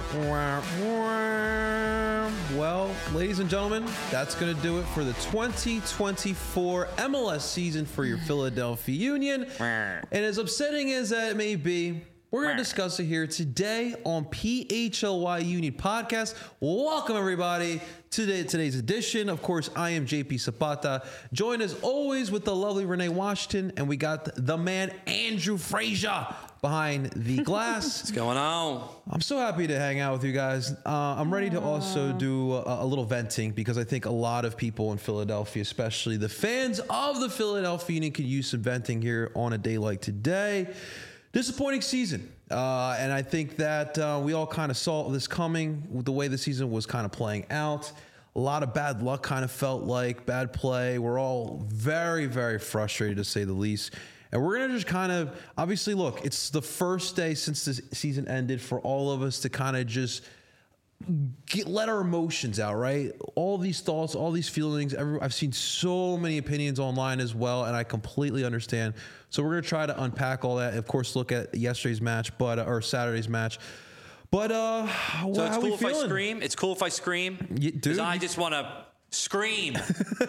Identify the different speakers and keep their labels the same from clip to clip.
Speaker 1: Well, ladies and gentlemen, that's going to do it for the 2024 MLS season for your Philadelphia Union. And as upsetting as that may be, we're going to discuss it here today on PHLY Union Podcast. Welcome, everybody, to today's edition. Of course, I am JP Zapata, joined as always with the lovely Renee Washington, and we got the man Andrew Frazier behind the glass.
Speaker 2: What's going on?
Speaker 1: I'm so happy to hang out with you guys. I'm ready to also do a little venting because I think a lot of people in Philadelphia, especially the fans of the Philadelphia Union, could use some venting here on a day like today. Disappointing season. And I think that we all kind of saw this coming with the way the season was kind of playing out. A lot of bad luck kind of felt like, bad play. We're all very, very frustrated, to say the least. And we're going to just kind of, obviously, look, it's the first day since the season ended for all of us to kind of just let our emotions out, right? All these thoughts, all these feelings. I've seen so many opinions online as well, and I completely understand. So we're going to try to unpack all that. Of course, look at yesterday's match, or Saturday's match. But
Speaker 2: so it's cool if
Speaker 1: feeling?
Speaker 2: I scream. It's cool if I scream. Because I just want to scream.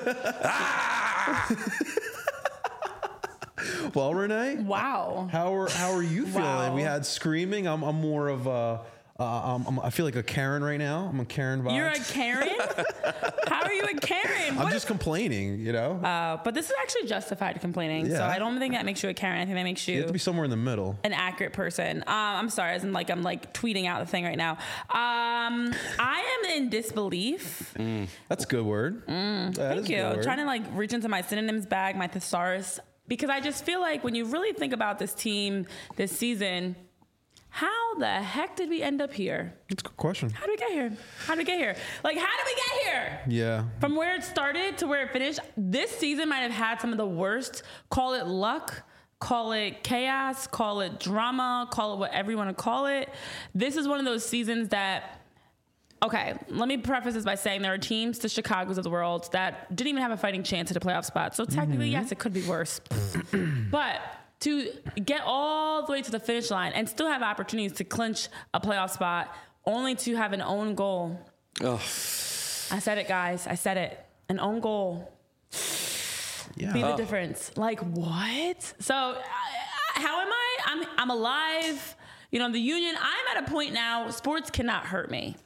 Speaker 1: Well, Renee.
Speaker 3: Wow.
Speaker 1: How are you feeling?
Speaker 3: Wow.
Speaker 1: We had screaming. I'm more of a. I feel like a Karen right now. I'm a Karen vibe.
Speaker 3: You're a Karen? How are you a Karen?
Speaker 1: I'm just complaining, you know?
Speaker 3: But this is actually justified complaining. So I don't think that makes you a Karen. I think that makes
Speaker 1: You have
Speaker 3: you
Speaker 1: to be somewhere in the middle.
Speaker 3: an accurate person. I'm sorry. As in, like, I'm like tweeting out the thing right now. I am in disbelief.
Speaker 1: That's a good word.
Speaker 3: Thank you. Trying to like reach into my synonyms bag, my thesaurus, because I just feel like when you really think about this team this season, how the heck did we end up here?
Speaker 1: That's a good question.
Speaker 3: How did we get here? How did we get here? Like, how did we get here?
Speaker 1: Yeah.
Speaker 3: From where it started to where it finished, this season might have had some of the worst, call it luck, call it chaos, call it drama, call it whatever you want to call it. This is one of those seasons that, okay, let me preface this by saying there are teams, the Chicagos of the world, that didn't even have a fighting chance at a playoff spot. So technically, yes, it could be worse. But to get all the way to the finish line and still have opportunities to clinch a playoff spot, only to have an own goal.
Speaker 2: Ugh.
Speaker 3: I said it, guys. I said it. An own goal.
Speaker 1: Yeah.
Speaker 3: Be the difference. Like, what? So, how am I? I'm alive. You know, the Union, I'm at a point now, sports cannot hurt me.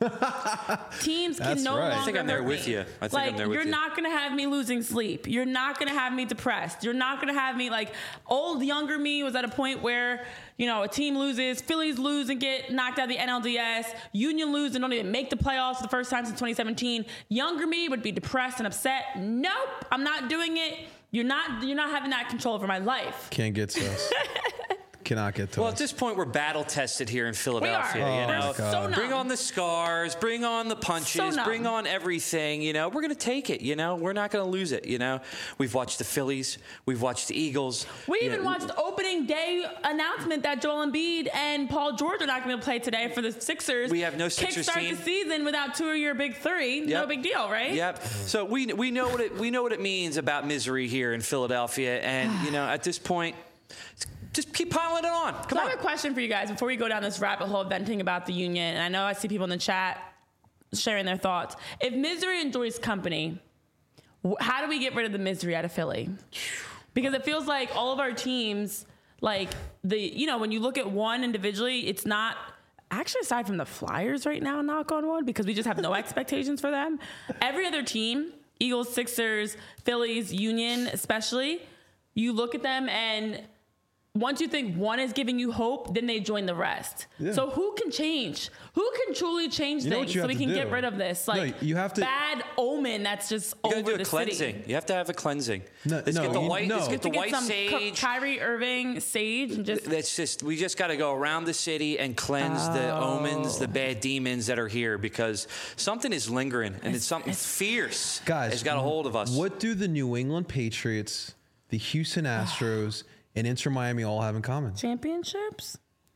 Speaker 3: Teams can no longer
Speaker 2: I think I'm there
Speaker 3: hurt
Speaker 2: with
Speaker 3: me.
Speaker 2: you. I think
Speaker 3: like,
Speaker 2: I'm there with
Speaker 3: you're
Speaker 2: you.
Speaker 3: not going to have me losing sleep. You're not going to have me depressed. You're not going to have me, like, old, younger me was at a point where, you know, a team loses, Phillies lose and get knocked out of the NLDS, Union lose and don't even make the playoffs for the first time since 2017. Younger me would be depressed and upset. Nope, I'm not doing it. You're not having that control over my life.
Speaker 1: Can't get to us. Cannot get to
Speaker 2: Well,
Speaker 1: us.
Speaker 2: at this point, we're battle tested here in Philadelphia.
Speaker 3: We are.
Speaker 2: You know,
Speaker 3: We're so numb.
Speaker 2: bring on the scars, bring on the punches,
Speaker 3: numb.
Speaker 2: bring on everything. You know, we're going to take it. You know, we're not going to lose it. You know, we've watched the Phillies, we've watched the Eagles.
Speaker 3: We even watched the opening day announcement that Joel Embiid and Paul George are not going to play today for the Sixers.
Speaker 2: We have no Sixers
Speaker 3: Kickstart
Speaker 2: team.
Speaker 3: the season without two of your big three.
Speaker 2: Yep.
Speaker 3: No big deal, right?
Speaker 2: Yep. So we know what it means about misery here in Philadelphia, and you know, at this point, just keep piling it on. Come
Speaker 3: So I
Speaker 2: on.
Speaker 3: have a question for you guys before we go down this rabbit hole of venting about the Union. And I know I see people in the chat sharing their thoughts. If misery enjoys company, how do we get rid of the misery out of Philly? Because it feels like all of our teams, like when you look at one individually, it's not actually, aside from the Flyers right now, knock on wood, because we just have no expectations for them. Every other team, Eagles, Sixers, Phillies, Union especially, you look at them and once you think one is giving you hope, then they join the rest. Yeah. So who can change? Who can truly change things so we can get rid of this
Speaker 1: you have to,
Speaker 3: bad omen that's just over the city? You got to do a
Speaker 2: cleansing. You have to have a cleansing.
Speaker 1: Let's get the
Speaker 2: white sage.
Speaker 3: Kyrie Irving sage. And
Speaker 2: we just got to go around the city and cleanse the omens, the bad demons that are here, because something is lingering and it's something fierce has got a hold of us.
Speaker 1: What do the New England Patriots, the Houston Astros, and Inter Miami all have in common?
Speaker 3: Championships?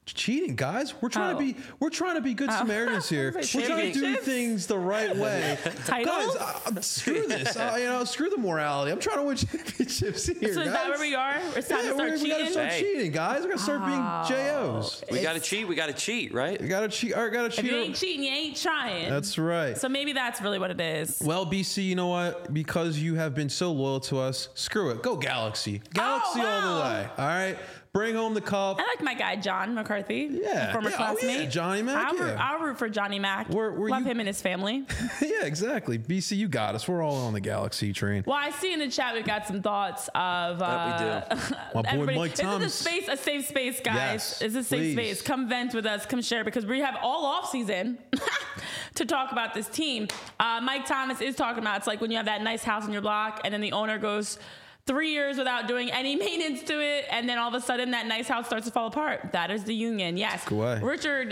Speaker 1: cheating, guys. We're trying to be good Samaritans here. We're trying to do things the right way. Guys, screw this. Screw the morality. I'm trying to win championships here.
Speaker 3: So is that where we are? It's time to start cheating.
Speaker 1: We gotta start cheating, guys. We gotta start being JOs.
Speaker 2: We gotta cheat. We gotta cheat, right?
Speaker 1: We gotta cheat. All right, gotta cheat.
Speaker 3: If you ain't cheating, you ain't trying.
Speaker 1: That's right.
Speaker 3: So maybe that's really what it is.
Speaker 1: Well, BC, you know what? Because you have been so loyal to us, screw it. Go Galaxy. Galaxy all the way. All right. Bring home the cup.
Speaker 3: I like my guy, John McCarthy.
Speaker 1: Yeah.
Speaker 3: Former classmate.
Speaker 1: Yeah. Johnny Mac.
Speaker 3: I'll root for Johnny Mac. Love him and his family.
Speaker 1: Yeah, exactly. BC, you got us. We're all on the Galaxy train.
Speaker 3: Well, I see in the chat we've got some thoughts of.
Speaker 2: We do.
Speaker 1: My boy Mike Thomas.
Speaker 3: This is a safe space, guys.
Speaker 1: Yes,
Speaker 3: it's a safe space. Come vent with us. Come share because we have all off season to talk about this team. Mike Thomas is talking about it's like when you have that nice house in your block and then the owner goes 3 years without doing any maintenance to it, and then all of a sudden that nice house starts to fall apart. That is the Union, yes.
Speaker 1: Go away.
Speaker 3: Richard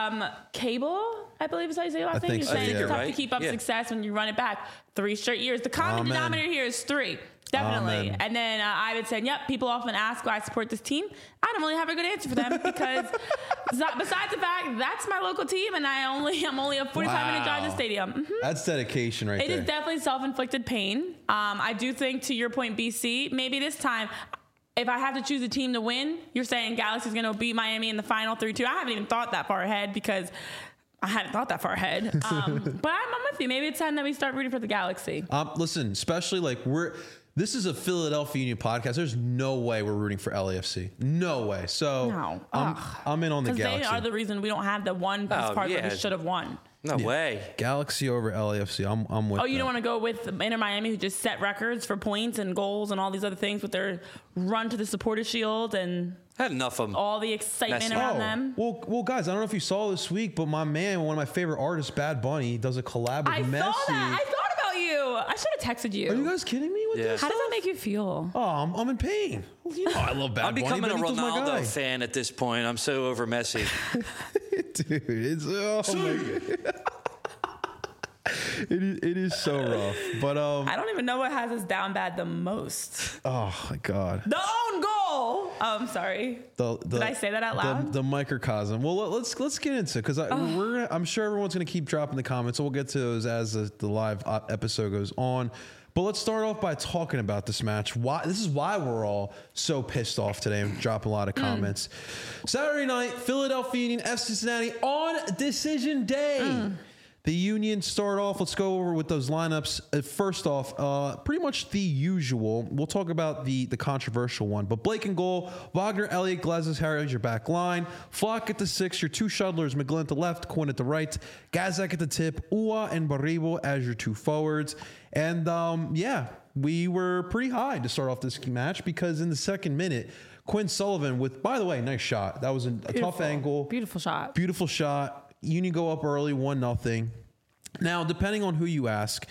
Speaker 3: Cable, I believe is how you say your last name. You're saying it's tough to keep up success when you run it back 3 straight years. The common denominator here is 3. Definitely.
Speaker 1: Amen.
Speaker 3: And then I would say, yep, people often ask why I support this team. I don't really have a good answer for them because besides the fact that's my local team and I'm only a 45-minute drive to the stadium. Mm-hmm. That's
Speaker 1: dedication right there.
Speaker 3: It is definitely self-inflicted pain. I do think, to your point, BC, maybe this time, if I have to choose a team to win, you're saying Galaxy's going to beat Miami in the final 3-2. I haven't even thought that far ahead because I hadn't thought that far ahead. But I'm with you. Maybe it's time that we start rooting for the Galaxy.
Speaker 1: Listen, especially this is a Philadelphia Union podcast. There's no way we're rooting for LAFC. No way. So I'm in on the Galaxy.
Speaker 3: They are the reason we don't have the one best part that we should have won.
Speaker 2: No way.
Speaker 1: Galaxy over LAFC. I'm with.
Speaker 3: Oh, you don't want to go with Inter Miami, who just set records for points and goals and all these other things with their run to the Supporters Shield and
Speaker 2: had enough of them.
Speaker 3: All the excitement around them.
Speaker 1: Well, guys, I don't know if you saw this week, but my man, one of my favorite artists, Bad Bunny, does a collab with Messi.
Speaker 3: I saw that. I thought about you. I should have texted you.
Speaker 1: Are you guys kidding me with this?
Speaker 3: How does that make you feel?
Speaker 1: Oh, I'm in pain. You know, I love Bad Bunny.
Speaker 2: I'm becoming a Ronaldo fan at this point. I'm so over Messi.
Speaker 1: Dude, it's my God. It is so rough, but
Speaker 3: I don't even know what has us down bad the most.
Speaker 1: Oh my God!
Speaker 3: The own goal. Oh, I'm sorry. Did I say that out loud?
Speaker 1: The microcosm. Well, let's get into it because I'm sure everyone's gonna keep dropping the comments. So we'll get to those as the live episode goes on. But let's start off by talking about this match. This is why we're all so pissed off today and dropping a lot of comments. Saturday night, Philadelphia Union, FC Cincinnati on decision day. The Union start off. Let's go over with those lineups. First off, pretty much the usual. We'll talk about the controversial one. But Blake in goal, Wagner, Elliott, Glazes, Harry, your back line. Flock at the 6, your 2 shuttlers, McGlynn at the left, Quinn at the right. Gazak at the tip, Ua and Baribo as your 2 forwards. And we were pretty high to start off this match because in the second minute, Quinn Sullivan with, by the way, nice shot. That was a tough angle.
Speaker 3: Beautiful shot.
Speaker 1: Beautiful shot. Union go up early, 1-0. Now, depending on who you ask,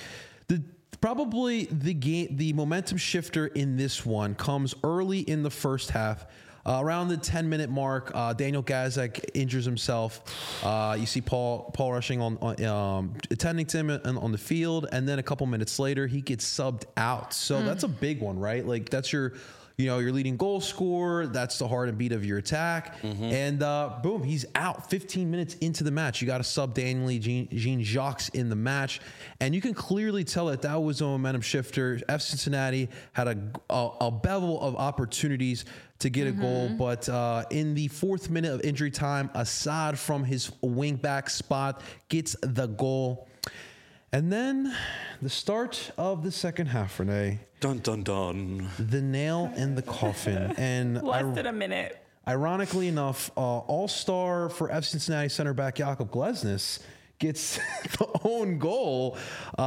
Speaker 1: probably the momentum shifter in this one comes early in the first half. Around the 10-minute mark, Daniel Gazak injures himself. You see Paul rushing on attending to him on the field, and then a couple minutes later, he gets subbed out. So that's a big one, right? Like that's your leading goal scorer. That's the heart and beat of your attack. And boom, he's out 15 minutes into the match. You got to sub Daniel Jean-Jacques in the match. And you can clearly tell that was a momentum shifter. F. Cincinnati had a bevel of opportunities to get a goal. But in the 4th minute of injury time, Assad from his wing back spot gets the goal. And then the start of the second half, Renee.
Speaker 2: Dun, dun, dun.
Speaker 1: The nail in the coffin. And
Speaker 3: less than a minute.
Speaker 1: Ironically enough, all-star for F. Cincinnati center back Jakub Glesnes gets the own goal.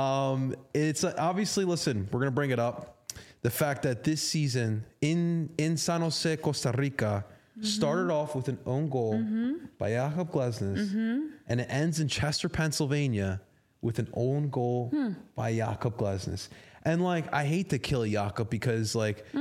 Speaker 1: It's obviously, listen, we're going to bring it up. The fact that this season in San Jose, Costa Rica, started off with an own goal by Jakub Glesnes, and it ends in Chester, Pennsylvania, with an own goal by Jakub Glesnes. And I hate to kill Jakub because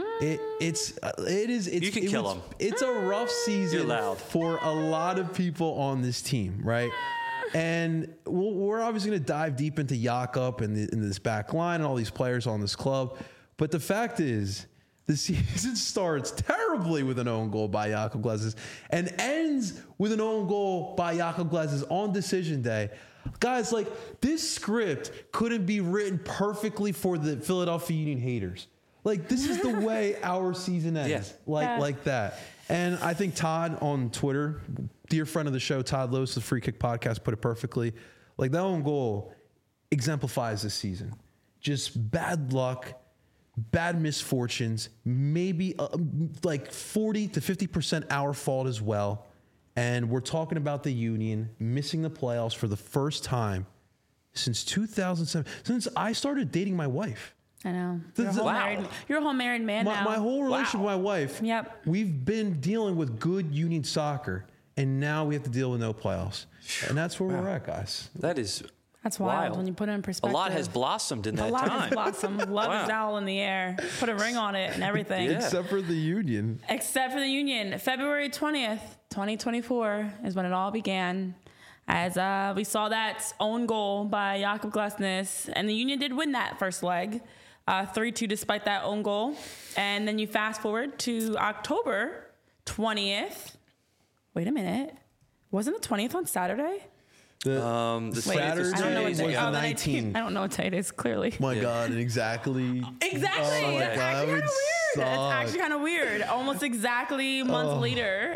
Speaker 1: it's
Speaker 2: you can kill him.
Speaker 1: It's a rough season for a lot of people on this team, right? And we're obviously going to dive deep into Jakub and in this back line and all these players on this club. But the fact is, The season starts terribly with an own goal by Jakob Glesnes and ends with an own goal by Jakob Glesnes on decision day. Guys, like, this script couldn't be written perfectly for the Philadelphia Union haters. Like, this is the way our season ends, like that. And I think Todd on Twitter, dear friend of the show, Todd Lewis, the Free Kick Podcast, put it perfectly. Like, that own goal exemplifies this season. Just bad luck, bad misfortunes, maybe like 40 to 50% our fault as well. And we're talking about the Union missing the playoffs for the first time since 2007, since I started dating my wife.
Speaker 3: I know. You're a whole married man now.
Speaker 1: My whole relationship with my wife, we've been dealing with good Union soccer, and now we have to deal with no playoffs. And that's where we're at, guys.
Speaker 3: That's wild when you put it in perspective.
Speaker 2: A lot has blossomed in that time.
Speaker 3: A lot has blossomed. Love is all in the air. Put a ring on it and everything.
Speaker 1: Except for the Union.
Speaker 3: February 20th, 2024 is when it all began. As we saw that own goal by Jakob Glesnes. And the Union did win that first leg, 3-2 despite that own goal. And then you fast forward to October 20th. Wait a minute. Wasn't the 20th on Saturday?
Speaker 1: The Saturday was the 19th.
Speaker 3: I don't know what day it is, clearly.
Speaker 1: My God, exactly.
Speaker 3: Exactly. That's actually kind of weird. That's actually kind of weird. Almost exactly a month later,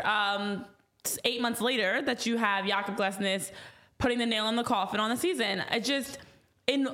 Speaker 3: 8 months later, that you have Jakob Glesnes putting the nail in the coffin on the season. It just, in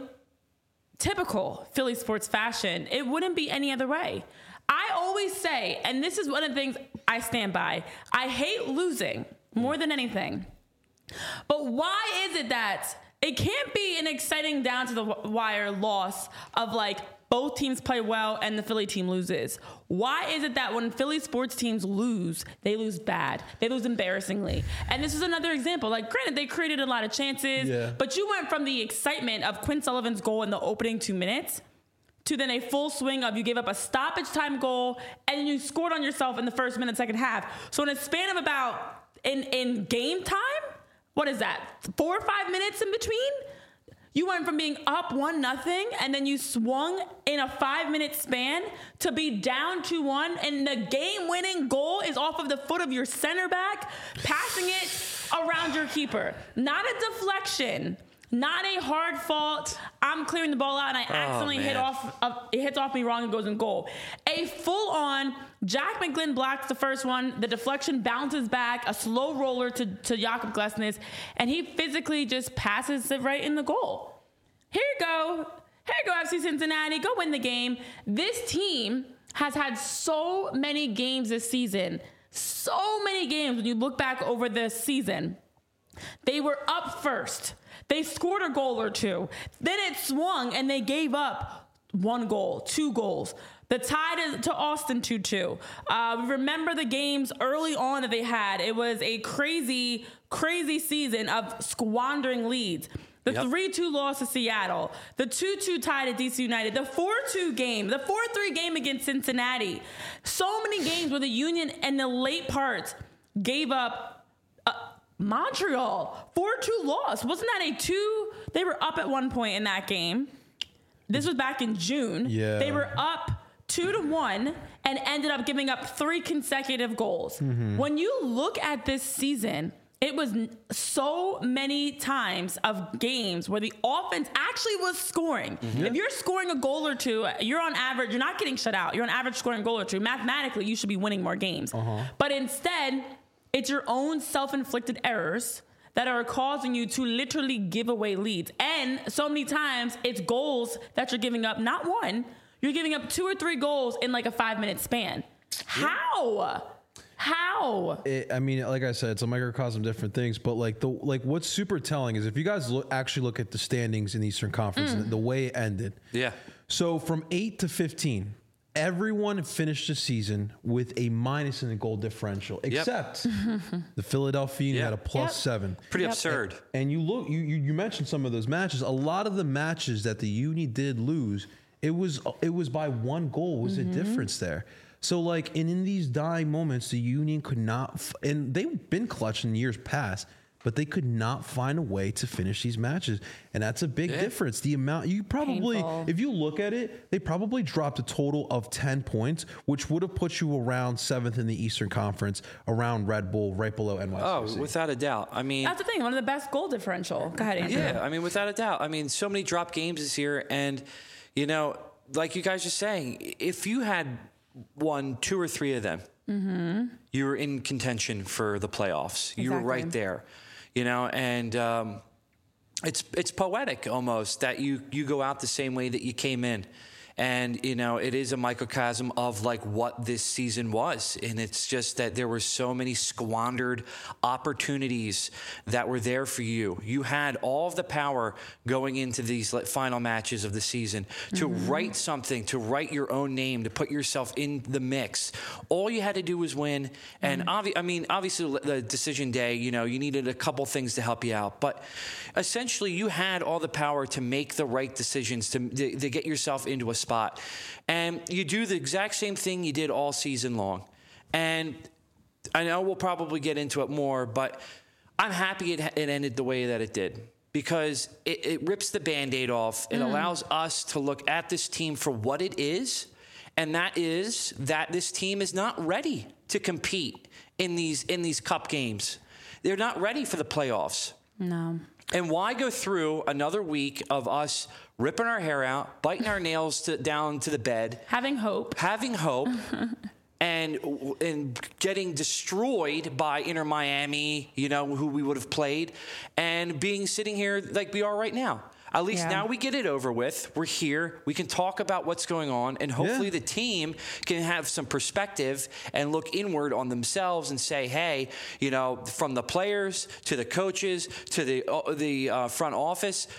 Speaker 3: typical Philly sports fashion, it wouldn't be any other way. I always say, and this is one of the things I stand by, I hate losing more than anything. But why is it that it can't be an exciting down to the wire loss of like both teams play well and the Philly team loses? Why is it that when Philly sports teams lose, they lose bad? They lose embarrassingly. And this is another example. Like, granted, they created a lot of chances, but you went from the excitement of Quinn Sullivan's goal in the opening 2 minutes to then a full swing of you gave up a stoppage time goal and then you scored on yourself in the first minute, second half. So in a span of about, in game time, what is that, 4 or 5 minutes in between? You went from being up 1-0 and then you swung in a 5-minute span to be down 2-1, and the game-winning goal is off of the foot of your center back, passing it around your keeper. Not a deflection, not a hard fault. I'm clearing the ball out and I accidentally it hits off me wrong and goes in goal. A full-on Jack McGlynn blocks the first one. The deflection bounces back, a slow roller to Jakob Glesnes, and he physically just passes it right in the goal. Here you go. Here you go, FC Cincinnati. Go win the game. This team has had so many games this season. So many games when you look back over this season. They were up first. They scored a goal or two. Then it swung and they gave up 1 goal, 2 goals. The tie to Austin 2-2. We remember the games early on that they had. It was a crazy, crazy season of squandering leads. The 3-2 loss to Seattle. The 2-2 tie to DC United. The 4-2 game. The 4-3 game against Cincinnati. So many games where the Union in the late parts gave up. Montreal, 4-2 loss. Wasn't that a 2? They were up at one point in that game. This was back in June. Yeah. They were up 2-1 and ended up giving up 3 consecutive goals. Mm-hmm. When you look at this season, it was so many times of games where the offense actually was scoring. Mm-hmm. If you're scoring a goal or two, you're on average, you're not getting shut out. You're on average scoring a goal or two. Mathematically, you should be winning more games. But instead, it's your own self-inflicted errors that are causing you to literally give away leads. And so many times, it's goals that you're giving up, not one. You're giving up 2 or 3 goals in like a 5-minute span. How?
Speaker 1: I mean, like I said, it's a microcosm of different things, but what's super telling is if you guys actually look at the standings in the Eastern Conference and the way it ended. Yeah. So from 8 to 15, everyone finished the season with a minus in the goal differential, except the Philadelphia Union had a +7.
Speaker 2: Pretty absurd.
Speaker 1: And you look, you mentioned some of those matches. A lot of the matches that the Union did lose, it was by 1 goal was the difference there. So like, and in these dying moments, the Union could not, and they've been clutch in years past, but they could not find a way to finish these matches. And that's a big difference. The amount you probably,
Speaker 3: Painful.
Speaker 1: if you look at it, they probably dropped a total of 10 points, which would have put you around 7th in the Eastern Conference, around Red Bull, right below NYCFC.
Speaker 2: Oh, without a doubt. I mean,
Speaker 3: that's the thing. One of the best goal differential. Go ahead, Andrew.
Speaker 2: Yeah, I mean, without a doubt. I mean, so many drop games this year. And, you know, like you guys are saying, if you had won 2 or 3 of them, you were in contention for the playoffs. You were right there, you know, and it's poetic almost that you go out the same way that you came in. And, you know, it is a microcosm of like what this season was. And it's just that there were so many squandered opportunities that were there for you. You had all of the power going into these final matches of the season to write something, to write your own name, to put yourself in the mix. All you had to do was win. And obviously the decision day, you know, you needed a couple things to help you out. But essentially you had all the power to make the right decisions, to get yourself into a spot. And you do the exact same thing you did all season long. And I know we'll probably get into it more, but I'm happy it ended the way that it did, because it rips the Band-Aid off. It allows us to look at this team for what it is, and that is that this team is not ready to compete in these cup games. They're not ready for the playoffs.
Speaker 3: No.
Speaker 2: And why go through another week of us ripping our hair out, biting our nails down to the bed,
Speaker 3: having hope,
Speaker 2: and getting destroyed by Inter Miami, you know, who we would have played, and sitting here like we are right now. At least now we get it over with. We're here. We can talk about what's going on, and hopefully the team can have some perspective and look inward on themselves and say, hey, you know, from the players to the coaches to the front office,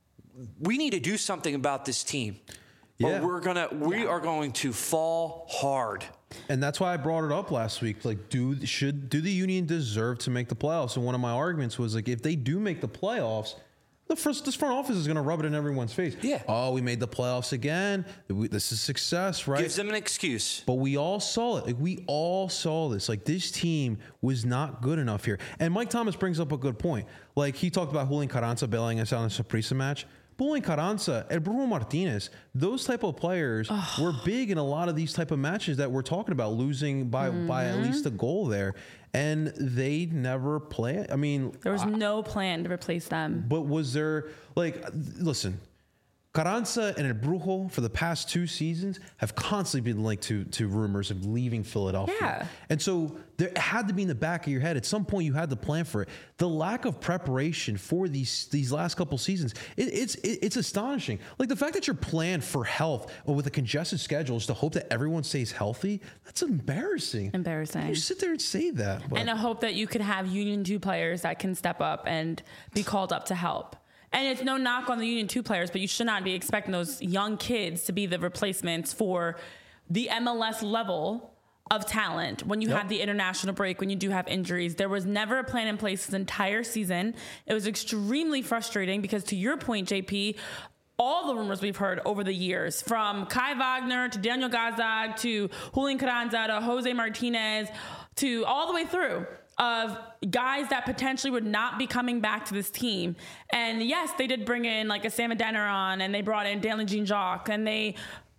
Speaker 2: we need to do something about this team. Or we are going to fall hard.
Speaker 1: And that's why I brought it up last week. Like, do the Union deserve to make the playoffs? And one of my arguments was, like, if they do make the playoffs, this front office is going to rub it in everyone's face.
Speaker 2: Yeah.
Speaker 1: Oh, we made the playoffs again. This is success, right?
Speaker 2: Gives them an excuse.
Speaker 1: But we all saw it. Like, we all saw this. Like, this team was not good enough here. And Mike Thomas brings up a good point. Like, he talked about Julian Carranza bailing us out in a Saprissa match. Julian Carranza and Bruno Martinez, those type of players were big in a lot of these type of matches that we're talking about, losing by at least a goal there. And they never play. I mean,
Speaker 3: there was no plan to replace them.
Speaker 1: But was there, like, listen, Carranza and El Brujo for the past 2 seasons have constantly been linked to rumors of leaving Philadelphia.
Speaker 3: Yeah.
Speaker 1: And so there had to be in the back of your head. At some point, you had to plan for it. The lack of preparation for these last couple seasons, it's astonishing. Like, the fact that you're planned for health or with a congested schedule is to hope that everyone stays healthy. That's embarrassing. You sit there and say that.
Speaker 3: And I hope that you could have Union 2 players that can step up and be called up to help. And it's no knock on the Union 2 players, but you should not be expecting those young kids to be the replacements for the MLS level of talent when you have the international break, when you do have injuries. There was never a plan in place this entire season. It was extremely frustrating because, to your point, JP, all the rumors we've heard over the years, from Kai Wagner to Daniel Gazdag to Julian Carranza to Jose Martinez to all the way through, of guys that potentially would not be coming back to this team. And yes, they did bring in like a Sam Adeniran, and they brought in Daniel Jean-Jacques, and we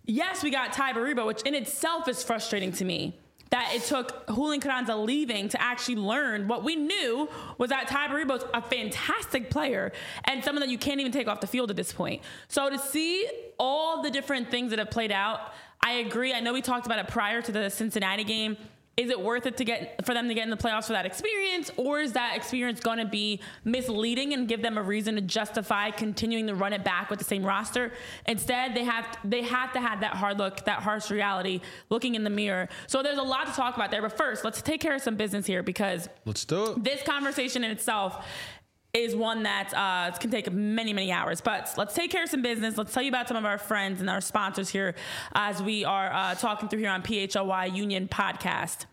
Speaker 3: got Ty Baribo, which in itself is frustrating to me, that it took Julian Carranza leaving to actually learn what we knew was that Ty Baribo's a fantastic player and someone that you can't even take off the field at this point. So to see all the different things that have played out, I agree. I know we talked about it prior to the Cincinnati game. Is it worth it for them to get in the playoffs for that experience, or is that experience going to be misleading and give them a reason to justify continuing to run it back with the same roster? Instead, they have to have that hard look, that harsh reality, looking in the mirror. So there's a lot to talk about there. But first, let's take care of some business here, because
Speaker 1: let's do it.
Speaker 3: This conversation in itself is one that can take many, many hours. But let's take care of some business. Let's tell you about some of our friends and our sponsors here as we are talking through here on PHLY Union Podcast.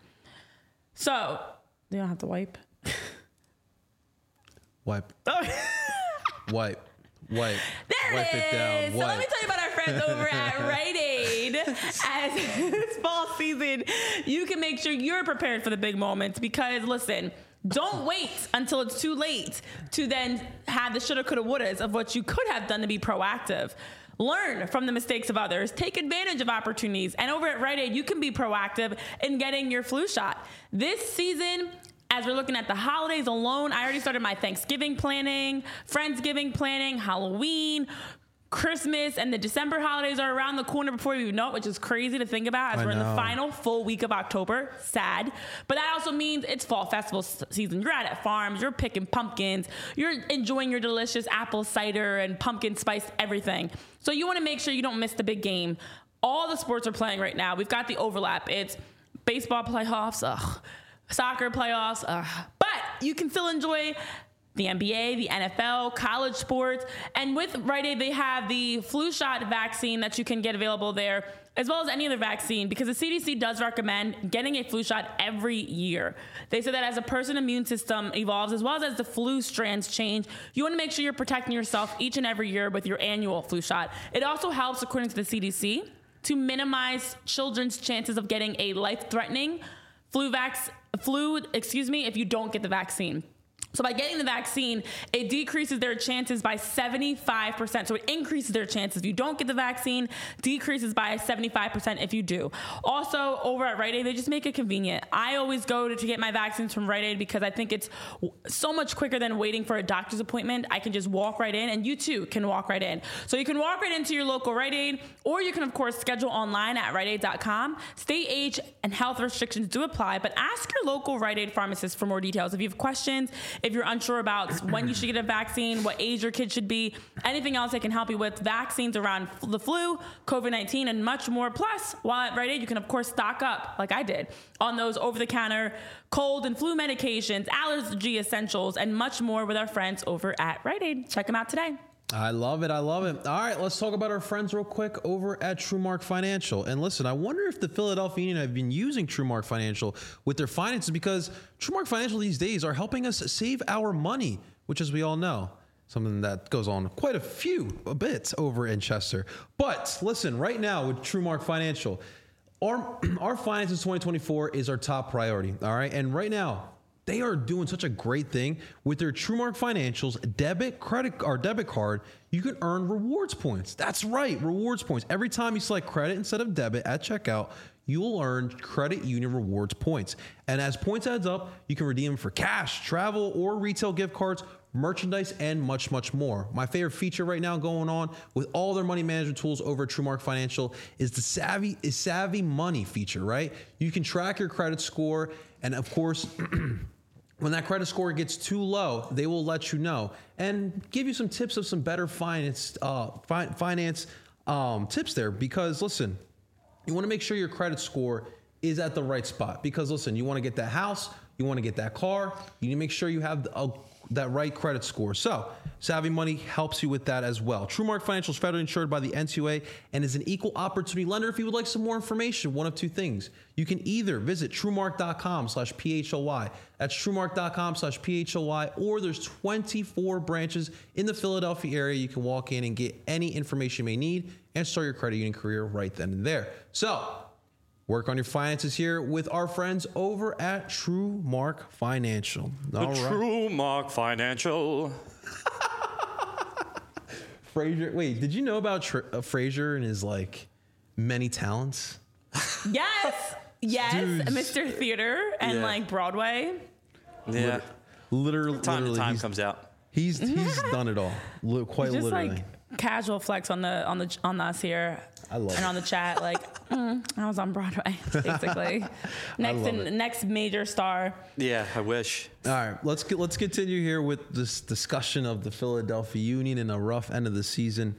Speaker 3: So, you don't have to wipe.
Speaker 1: Wipe. Wipe.
Speaker 3: There
Speaker 1: wipe it down.
Speaker 3: So let me tell you about our friends over at Rite Aid. As it's fall season, you can make sure you're prepared for the big moments, because listen, Don't wait until it's too late to then have the shoulda, coulda, wouldas of what you could have done to be proactive. Learn from the mistakes of others. Take advantage of opportunities. And over at Rite Aid, you can be proactive in getting your flu shot. This season, as we're looking at the holidays alone, I already started my Thanksgiving planning, Friendsgiving planning, Halloween, Christmas, and the December holidays are around the corner before you know it, which is crazy to think about as we're in the final full week of October. Sad. But that also means it's fall festival season. You're out at farms, you're picking pumpkins, you're enjoying your delicious apple cider and pumpkin spiced everything. So you want to make sure you don't miss the big game. All the sports are playing right now. We've got the overlap. It's baseball playoffs, soccer playoffs, but you can still enjoy the NBA, the NFL, college sports. And with Rite Aid, they have the flu shot vaccine that you can get available there, as well as any other vaccine, because the CDC does recommend getting a flu shot every year. They say that as a person's immune system evolves, as well as the flu strands change, you want to make sure you're protecting yourself each and every year with your annual flu shot. It also helps, according to the CDC, to minimize children's chances of getting a life-threatening flu if you don't get the vaccine. So by getting the vaccine, it decreases their chances by 75%. So it increases their chances. If you don't get the vaccine, decreases by 75% if you do. Also, over at Rite Aid, they just make it convenient. I always go to get my vaccines from Rite Aid because I think it's so much quicker than waiting for a doctor's appointment. I can just walk right in, and you too can walk right in. So you can walk right into your local Rite Aid, or you can, of course, schedule online at riteaid.com. State, age, and health restrictions do apply, but ask your local Rite Aid pharmacist for more details. If you have questions, if you're unsure about when you should get a vaccine, what age your kid should be, anything else they can help you with, vaccines around the flu, COVID-19, and much more. Plus, while at Rite Aid, you can, of course, stock up, like I did, on those over-the-counter cold and flu medications, allergy essentials, and much more with our friends over at Rite Aid. Check them out today.
Speaker 1: I love it. I love it. All right, let's talk about our friends real quick over at TrueMark Financial. And listen, I wonder if the Philadelphia Union have been using TrueMark Financial with their finances, because TrueMark Financial these days are helping us save our money, which, as we all know, something that goes on quite a bit over in Chester. But listen, right now with TrueMark Financial, our finances 2024 is our top priority. All right, and right now, they are doing such a great thing with their TrueMark Financial's debit card. You can earn rewards points. That's right, rewards points. Every time you select credit instead of debit at checkout, you will earn credit union rewards points. And as points adds up, you can redeem them for cash, travel, or retail gift cards, merchandise, and much, much more. My favorite feature right now going on with all their money management tools over at TrueMark Financial is the Savvy Money feature, right? You can track your credit score, and of course, when that credit score gets too low, they will let you know and give you some tips of some better finance tips there. Because listen, you want to make sure your credit score is at the right spot. Because listen, you want to get that house, you want to get that car, you need to make sure you have that right credit score. So Savvy Money helps you with that as well. TrueMark Financial is federally insured by the NCUA and is an equal opportunity lender. If you would like some more information, one of two things. You can either visit TrueMark.com/PHLY. That's TrueMark.com/PHLY, or there's 24 branches in the Philadelphia area. You can walk in and get any information you may need and start your credit union career right then and there. So work on your finances here with our friends over at TrueMark Financial.
Speaker 2: TrueMark Financial.
Speaker 1: Frazier, wait, did you know about Frazier and his many talents?
Speaker 3: Yes,
Speaker 1: Dude.
Speaker 3: Mr. Theater and Broadway.
Speaker 2: Yeah,
Speaker 1: Literally,
Speaker 2: time comes out.
Speaker 1: He's done it all, quite
Speaker 3: Just
Speaker 1: literally.
Speaker 3: Casual flex on us here.
Speaker 1: I love
Speaker 3: and
Speaker 1: it.
Speaker 3: on the chat, I was on Broadway, basically. Next major star.
Speaker 2: Yeah, I wish.
Speaker 1: All right, let's continue here with this discussion of the Philadelphia Union in a rough end of the season.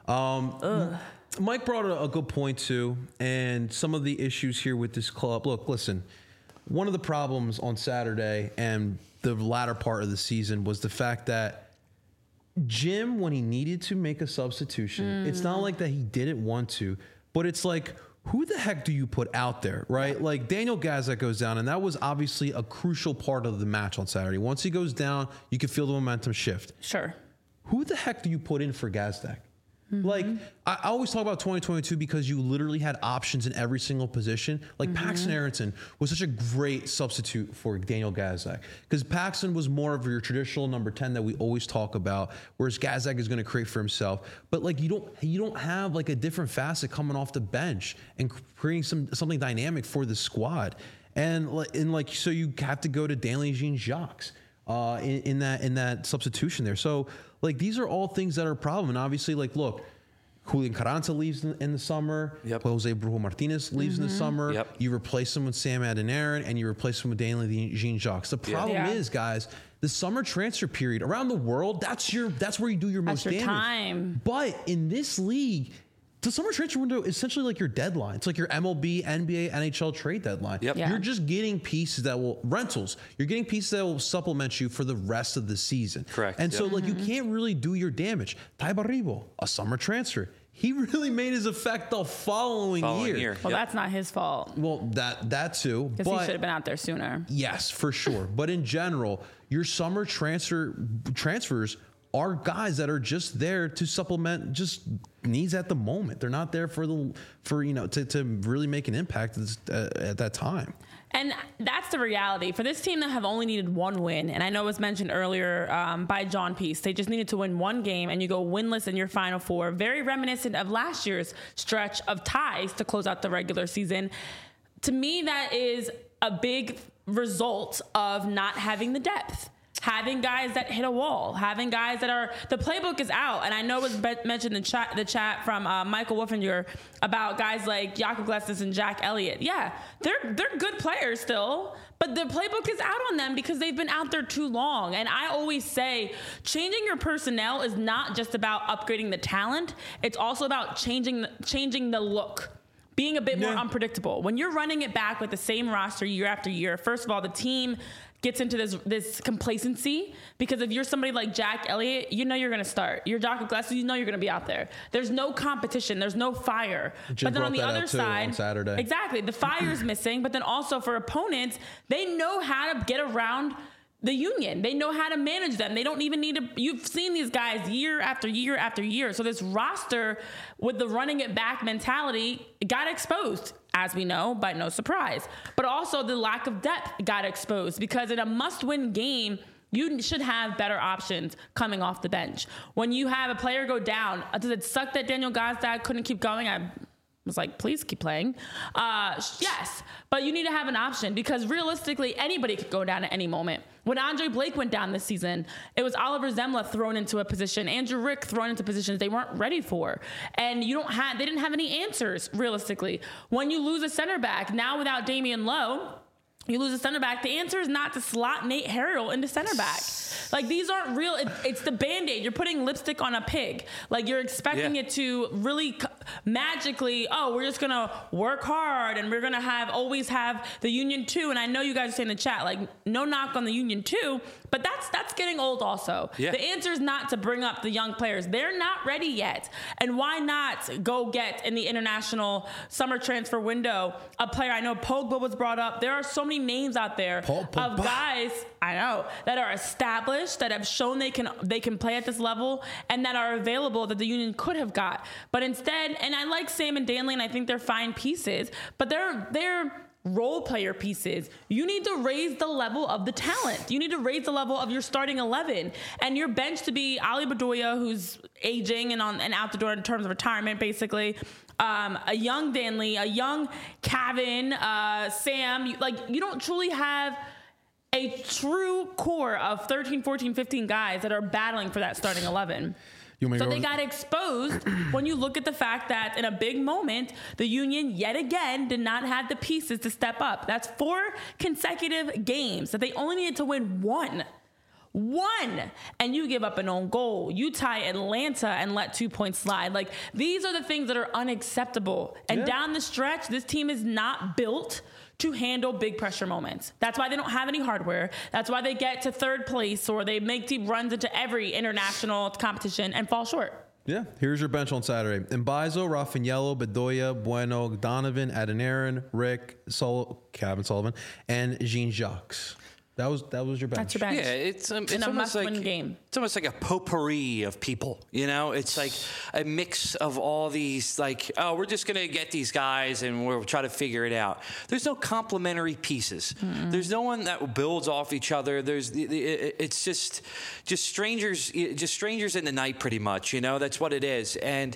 Speaker 1: Mike brought a good point too, and some of the issues here with this club. Look, listen, one of the problems on Saturday and the latter part of the season was the fact that Jim, when he needed to make a substitution, it's not like that he didn't want to, but it's like, who the heck do you put out there, right? Like Daniel Gazak goes down, and that was obviously a crucial part of the match on Saturday. Once he goes down, you can feel the momentum shift.
Speaker 3: Sure.
Speaker 1: Who the heck do you put in for Gazdak? Like, I always talk about 2022 because you literally had options in every single position. Like, Paxton Aronson was such a great substitute for Daniel Gazak because Paxton was more of your traditional number 10 that we always talk about, whereas Gazak is going to create for himself. But like, you don't have like a different facet coming off the bench and creating something dynamic for the squad. And so you have to go to Danley Jean-Jacques in that substitution there. So like, these are all things that are a problem. And obviously, like, look, Julian Carranza leaves in the summer.
Speaker 2: Yep.
Speaker 1: Jose Brujo Martinez leaves in the summer.
Speaker 2: Yep.
Speaker 1: You replace him with Sam Adeniran, and you replace him with Danley Jean-Jacques. The problem is, guys, the summer transfer period around the world, that's where you do your most damage.
Speaker 3: Time.
Speaker 1: But in this league, the summer transfer window is essentially like your deadline. It's like your MLB, NBA, NHL trade deadline.
Speaker 2: Yep.
Speaker 3: Yeah.
Speaker 1: You're just getting pieces rentals. You're getting pieces that will supplement you for the rest of the season.
Speaker 2: Correct.
Speaker 1: And so, like, you can't really do your damage. Ty Barribo, a summer transfer. He really made his effect the following year.
Speaker 3: Well, that's not his fault.
Speaker 1: Well, that too.
Speaker 3: Because he should have been out there sooner.
Speaker 1: Yes, for sure. But in general, your summer transfers are guys that are just there to supplement just needs at the moment. They're not there to really make an impact at that time.
Speaker 3: And that's the reality. For this team that have only needed one win, and I know it was mentioned earlier by John Peace, they just needed to win one game, and you go winless in your Final Four. Very reminiscent of last year's stretch of ties to close out the regular season. To me, that is a big result of not having the depth. Having guys that hit a wall, having guys that the playbook is out. And I know it was mentioned in the chat from Michael Wolfinger about guys like Jakob Glesnes and Jack Elliott. Yeah, they're good players still, but the playbook is out on them because they've been out there too long. And I always say changing your personnel is not just about upgrading the talent. It's also about changing the look. Being a bit more unpredictable. When you're running it back with the same roster year after year, first of all, the team gets into this complacency because if you're somebody like Jack Elliott, you know you're going to start. You're Jakob Glesnes, you know you're going to be out there. There's no competition. There's no fire.
Speaker 1: Jim
Speaker 3: but then on the
Speaker 1: brought that
Speaker 3: other
Speaker 1: out, too,
Speaker 3: side,
Speaker 1: on Saturday.
Speaker 3: Exactly, the fire's missing. But then also for opponents, they know how to get around the Union. They know how to manage them. They don't even need to. You've seen these guys year after year after year. So this roster with the running it back mentality got exposed, as we know, by no surprise. But also the lack of depth got exposed because in a must-win game, you should have better options coming off the bench. When you have a player go down, does it suck that Daniel Gazdag couldn't keep going? I was like, please keep playing. Yes, but you need to have an option because realistically, anybody could go down at any moment. When Andre Blake went down this season, it was Oliver Zemla thrown into a position, Andrew Rick thrown into positions they weren't ready for. And they didn't have any answers, realistically. When you lose a center back, now without Damian Lowe, you lose a center back. The answer is not to slot Nate Harrell into center back. Like, these aren't real. It's the Band-Aid. You're putting lipstick on a pig. Like, you're expecting it to really magically, we're just going to work hard and we're going to always have the Union 2. And I know you guys are saying in the chat, like, no knock on the Union 2, but that's getting old also. Yeah. The answer is not to bring up the young players. They're not ready yet. And why not go get in the international summer transfer window a player? I know Pogba was brought up. There are so many names out there of guys, I know, that are established, that have shown they can play at this level and that are available that the Union could have got. But instead, and I like Sam and Danley and I think they're fine pieces, but they're role player pieces. You need to raise the level of the talent. You need to raise the level of your starting 11 and your bench to be Ali Bedoya, who's aging and out the door in terms of retirement, basically. A young Danley, a young Kevin, Sam. You don't truly have a true core of 13, 14, 15 guys that are battling for that starting 11. So they got exposed when you look at the fact that in a big moment, the Union yet again did not have the pieces to step up. That's 4 consecutive games that they only needed to win one. And you give up an own goal. You tie Atlanta and let 2 points slide. Like, these are the things that are unacceptable. And down the stretch, this team is not built to handle big pressure moments. That's why they don't have any hardware. That's why they get to third place or they make deep runs into every international competition and fall short.
Speaker 1: Yeah, here's your bench on Saturday. Mbaizo, Raffaello, Bedoya, Bueno, Donovan, Adeniran, Rick, Kevin Sullivan, and Jean-Jacques. That was your bench.
Speaker 3: That's your bench.
Speaker 2: Yeah, it's
Speaker 3: in a
Speaker 2: almost
Speaker 3: must-win
Speaker 2: like
Speaker 3: game.
Speaker 2: It's almost like a potpourri of people. You know, it's like a mix of all these. Like, oh, we're just gonna get these guys and we'll try to figure it out. There's no complementary pieces. There's no one that builds off each other. It's just strangers, just strangers in the night, pretty much. You know, that's what it is. And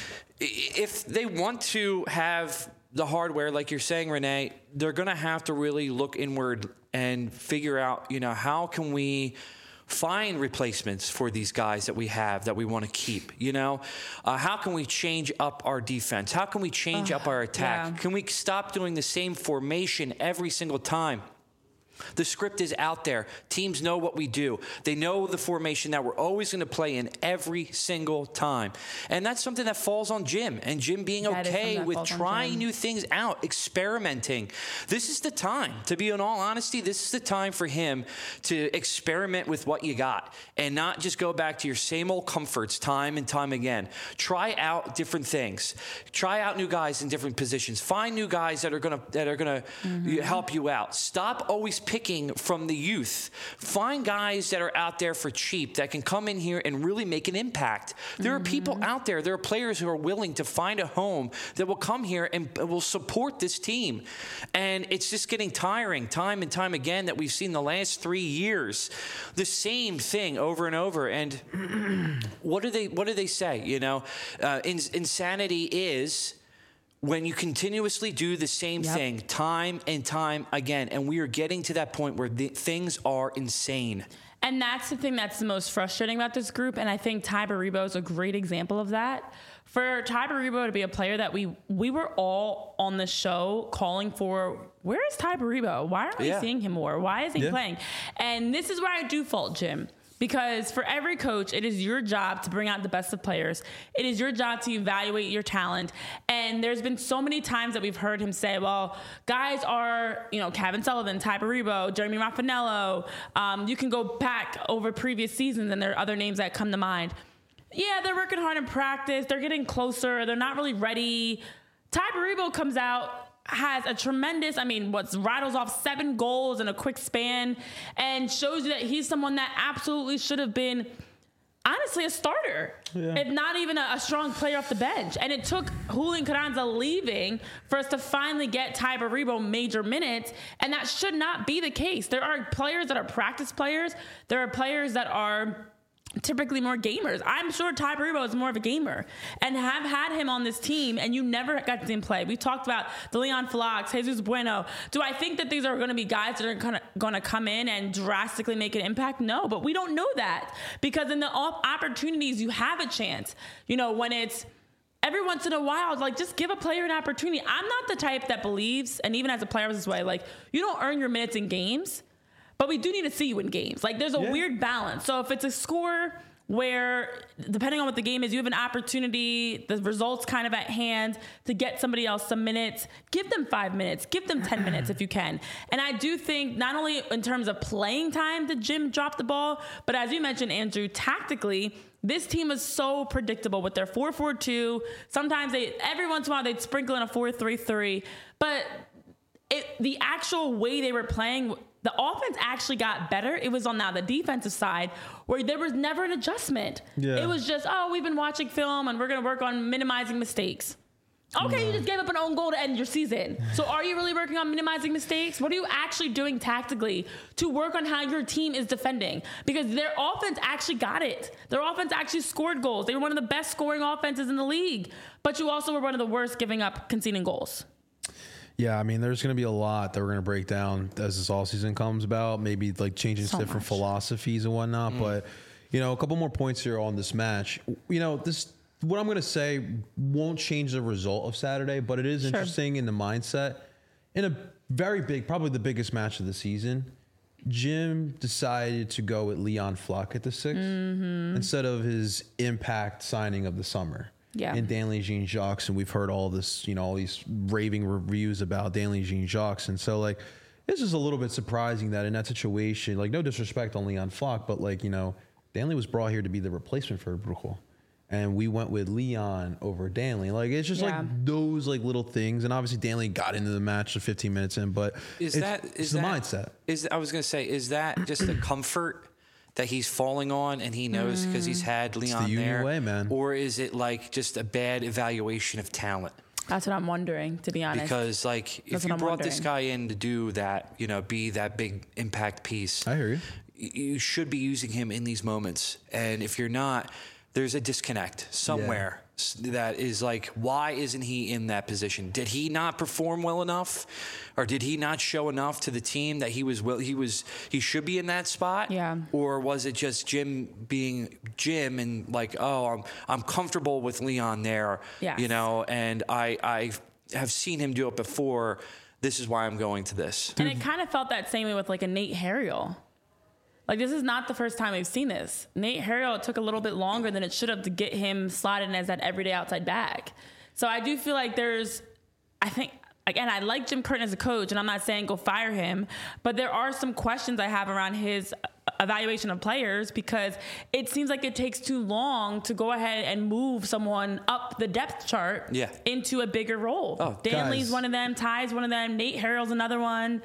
Speaker 2: if they want to have the hardware, like you're saying, Renee, they're going to have to really look inward and figure out, you know, how can we find replacements for these guys that we have that we want to keep, you know? How can we change up our defense? How can we change up our attack?
Speaker 3: Yeah.
Speaker 2: Can we stop doing the same formation every single time? The script is out there. Teams know what we do. They know the formation that we're always going to play in every single time. And that's something that falls on Jim. And Jim being okay with trying new things out, experimenting. This is the time, to be in all honesty, this is the time for him to experiment with what you got and not just go back to your same old comforts time and time again. Try out different things. Try out new guys in different positions. Find new guys that are going to help you out. Stop always picking from the youth. Find guys that are out there for cheap that can come in here and really make an impact. There are people out there, there are players who are willing to find a home that will come here and will support this team. And it's just getting tiring time and time again that we've seen the last 3 years. The same thing over and over. And what do they say? You know, insanity is when you continuously do the same thing time and time again. And we are getting to that point where things are insane.
Speaker 3: And that's the thing that's the most frustrating about this group. And I think Ty Baribo is a great example of that. For Ty Baribo to be a player that we were all on the show calling for, where is Ty Baribo? Why aren't we seeing him more? Why isn't he playing? And this is where I do fault Jim. Because for every coach, it is your job to bring out the best of players. It is your job to evaluate your talent. And there's been so many times that we've heard him say, well, guys are, you know, Kevin Sullivan, Ty Baribo, Jeremy Raffanello. You can go back over previous seasons and there are other names that come to mind. Yeah, they're working hard in practice. They're getting closer. They're not really ready. Ty Baribo comes out, has a tremendous, rattles off 7 goals in a quick span and shows you that he's someone that absolutely should have been, honestly, a starter, if not even a strong player off the bench. And it took Julian Carranza leaving for us to finally get Ty Baribo major minutes, and that should not be the case. There are players that are practice players. There are players that are typically more gamers. I'm sure Ty Baribo is more of a gamer and have had him on this team and you never got to see him play. We talked about the Leon Flocks, Jesus Bueno. Do I think that these are going to be guys that are going to come in and drastically make an impact? No, but we don't know that because in the opportunities you have a chance. You know, when it's every once in a while, like just give a player an opportunity. I'm not the type that believes, and even as a player I was this way, like you don't earn your minutes in games. But we do need to see you in games. Like, there's a weird balance. So if it's a score where, depending on what the game is, you have an opportunity, the results kind of at hand, to get somebody else some minutes, give them 5 minutes, give them 10 minutes if you can. And I do think not only in terms of playing time did Jim drop the ball, but as you mentioned, Andrew, tactically, this team is so predictable with their 4-4-2. Sometimes every once in a while, they'd sprinkle in a 4-3-3. But the actual way they were playing, the offense actually got better. It was on now the defensive side where there was never an adjustment. Yeah. It was just, we've been watching film and we're going to work on minimizing mistakes. Okay, you just gave up an own goal to end your season. So are you really working on minimizing mistakes? What are you actually doing tactically to work on how your team is defending? Because their offense actually got it. Their offense actually scored goals. They were one of the best scoring offenses in the league. But you also were one of the worst giving up conceding goals.
Speaker 1: Yeah, there's going to be a lot that we're going to break down as this all season comes about, maybe like changing different philosophies and whatnot. But, a couple more points here on this match. What I'm going to say won't change the result of Saturday, but it is interesting in the mindset. In a very big, probably the biggest match of the season, Jim decided to go with Leon Fluck at the 6 instead of his impact signing of the summer. Yeah. And Danley Jean-Jacques, and we've heard all this, all these raving reviews about Danley Jean-Jacques. And so, this is a little bit surprising that in that situation, no disrespect on Leon Fluck, but, Danley was brought here to be the replacement for Bruchel. and we went with Leon over Danley. Like, it's just like those like little things. And obviously Danley got into the match 15 minutes in, but it's the mindset.
Speaker 2: I was going to say, is that just the comfort that he's falling on and he knows because he's had Leon
Speaker 1: it's the
Speaker 2: there?
Speaker 1: way, man.
Speaker 2: Or is it like just a bad evaluation of talent?
Speaker 3: That's what I'm wondering, to be honest.
Speaker 2: Because, like, if you brought this guy in to do that, you know, be that big impact piece,
Speaker 1: I hear you.
Speaker 2: You should be using him in these moments. And if you're not, there's a disconnect somewhere that is like, why isn't he in that position? Did he not perform well enough, or did he not show enough to the team that he should be in that spot?
Speaker 3: Yeah.
Speaker 2: Or was it just Jim being Jim and like, oh, I'm comfortable with Leon there, you know, and I have seen him do it before. This is why I'm going to this.
Speaker 3: And it kind of felt that same way with like a Nate Harriel. Like, this is not the first time we've seen this. Nate Harriel took a little bit longer than it should have to get him slotted in as that everyday outside back. So I do feel like I think, again, I like Jim Curtin as a coach, and I'm not saying go fire him, but there are some questions I have around his evaluation of players, because it seems like it takes too long to go ahead and move someone up the depth chart into a bigger role.
Speaker 2: Oh,
Speaker 3: Danley's one of them, Ty's one of them, Nate Harriel's another one.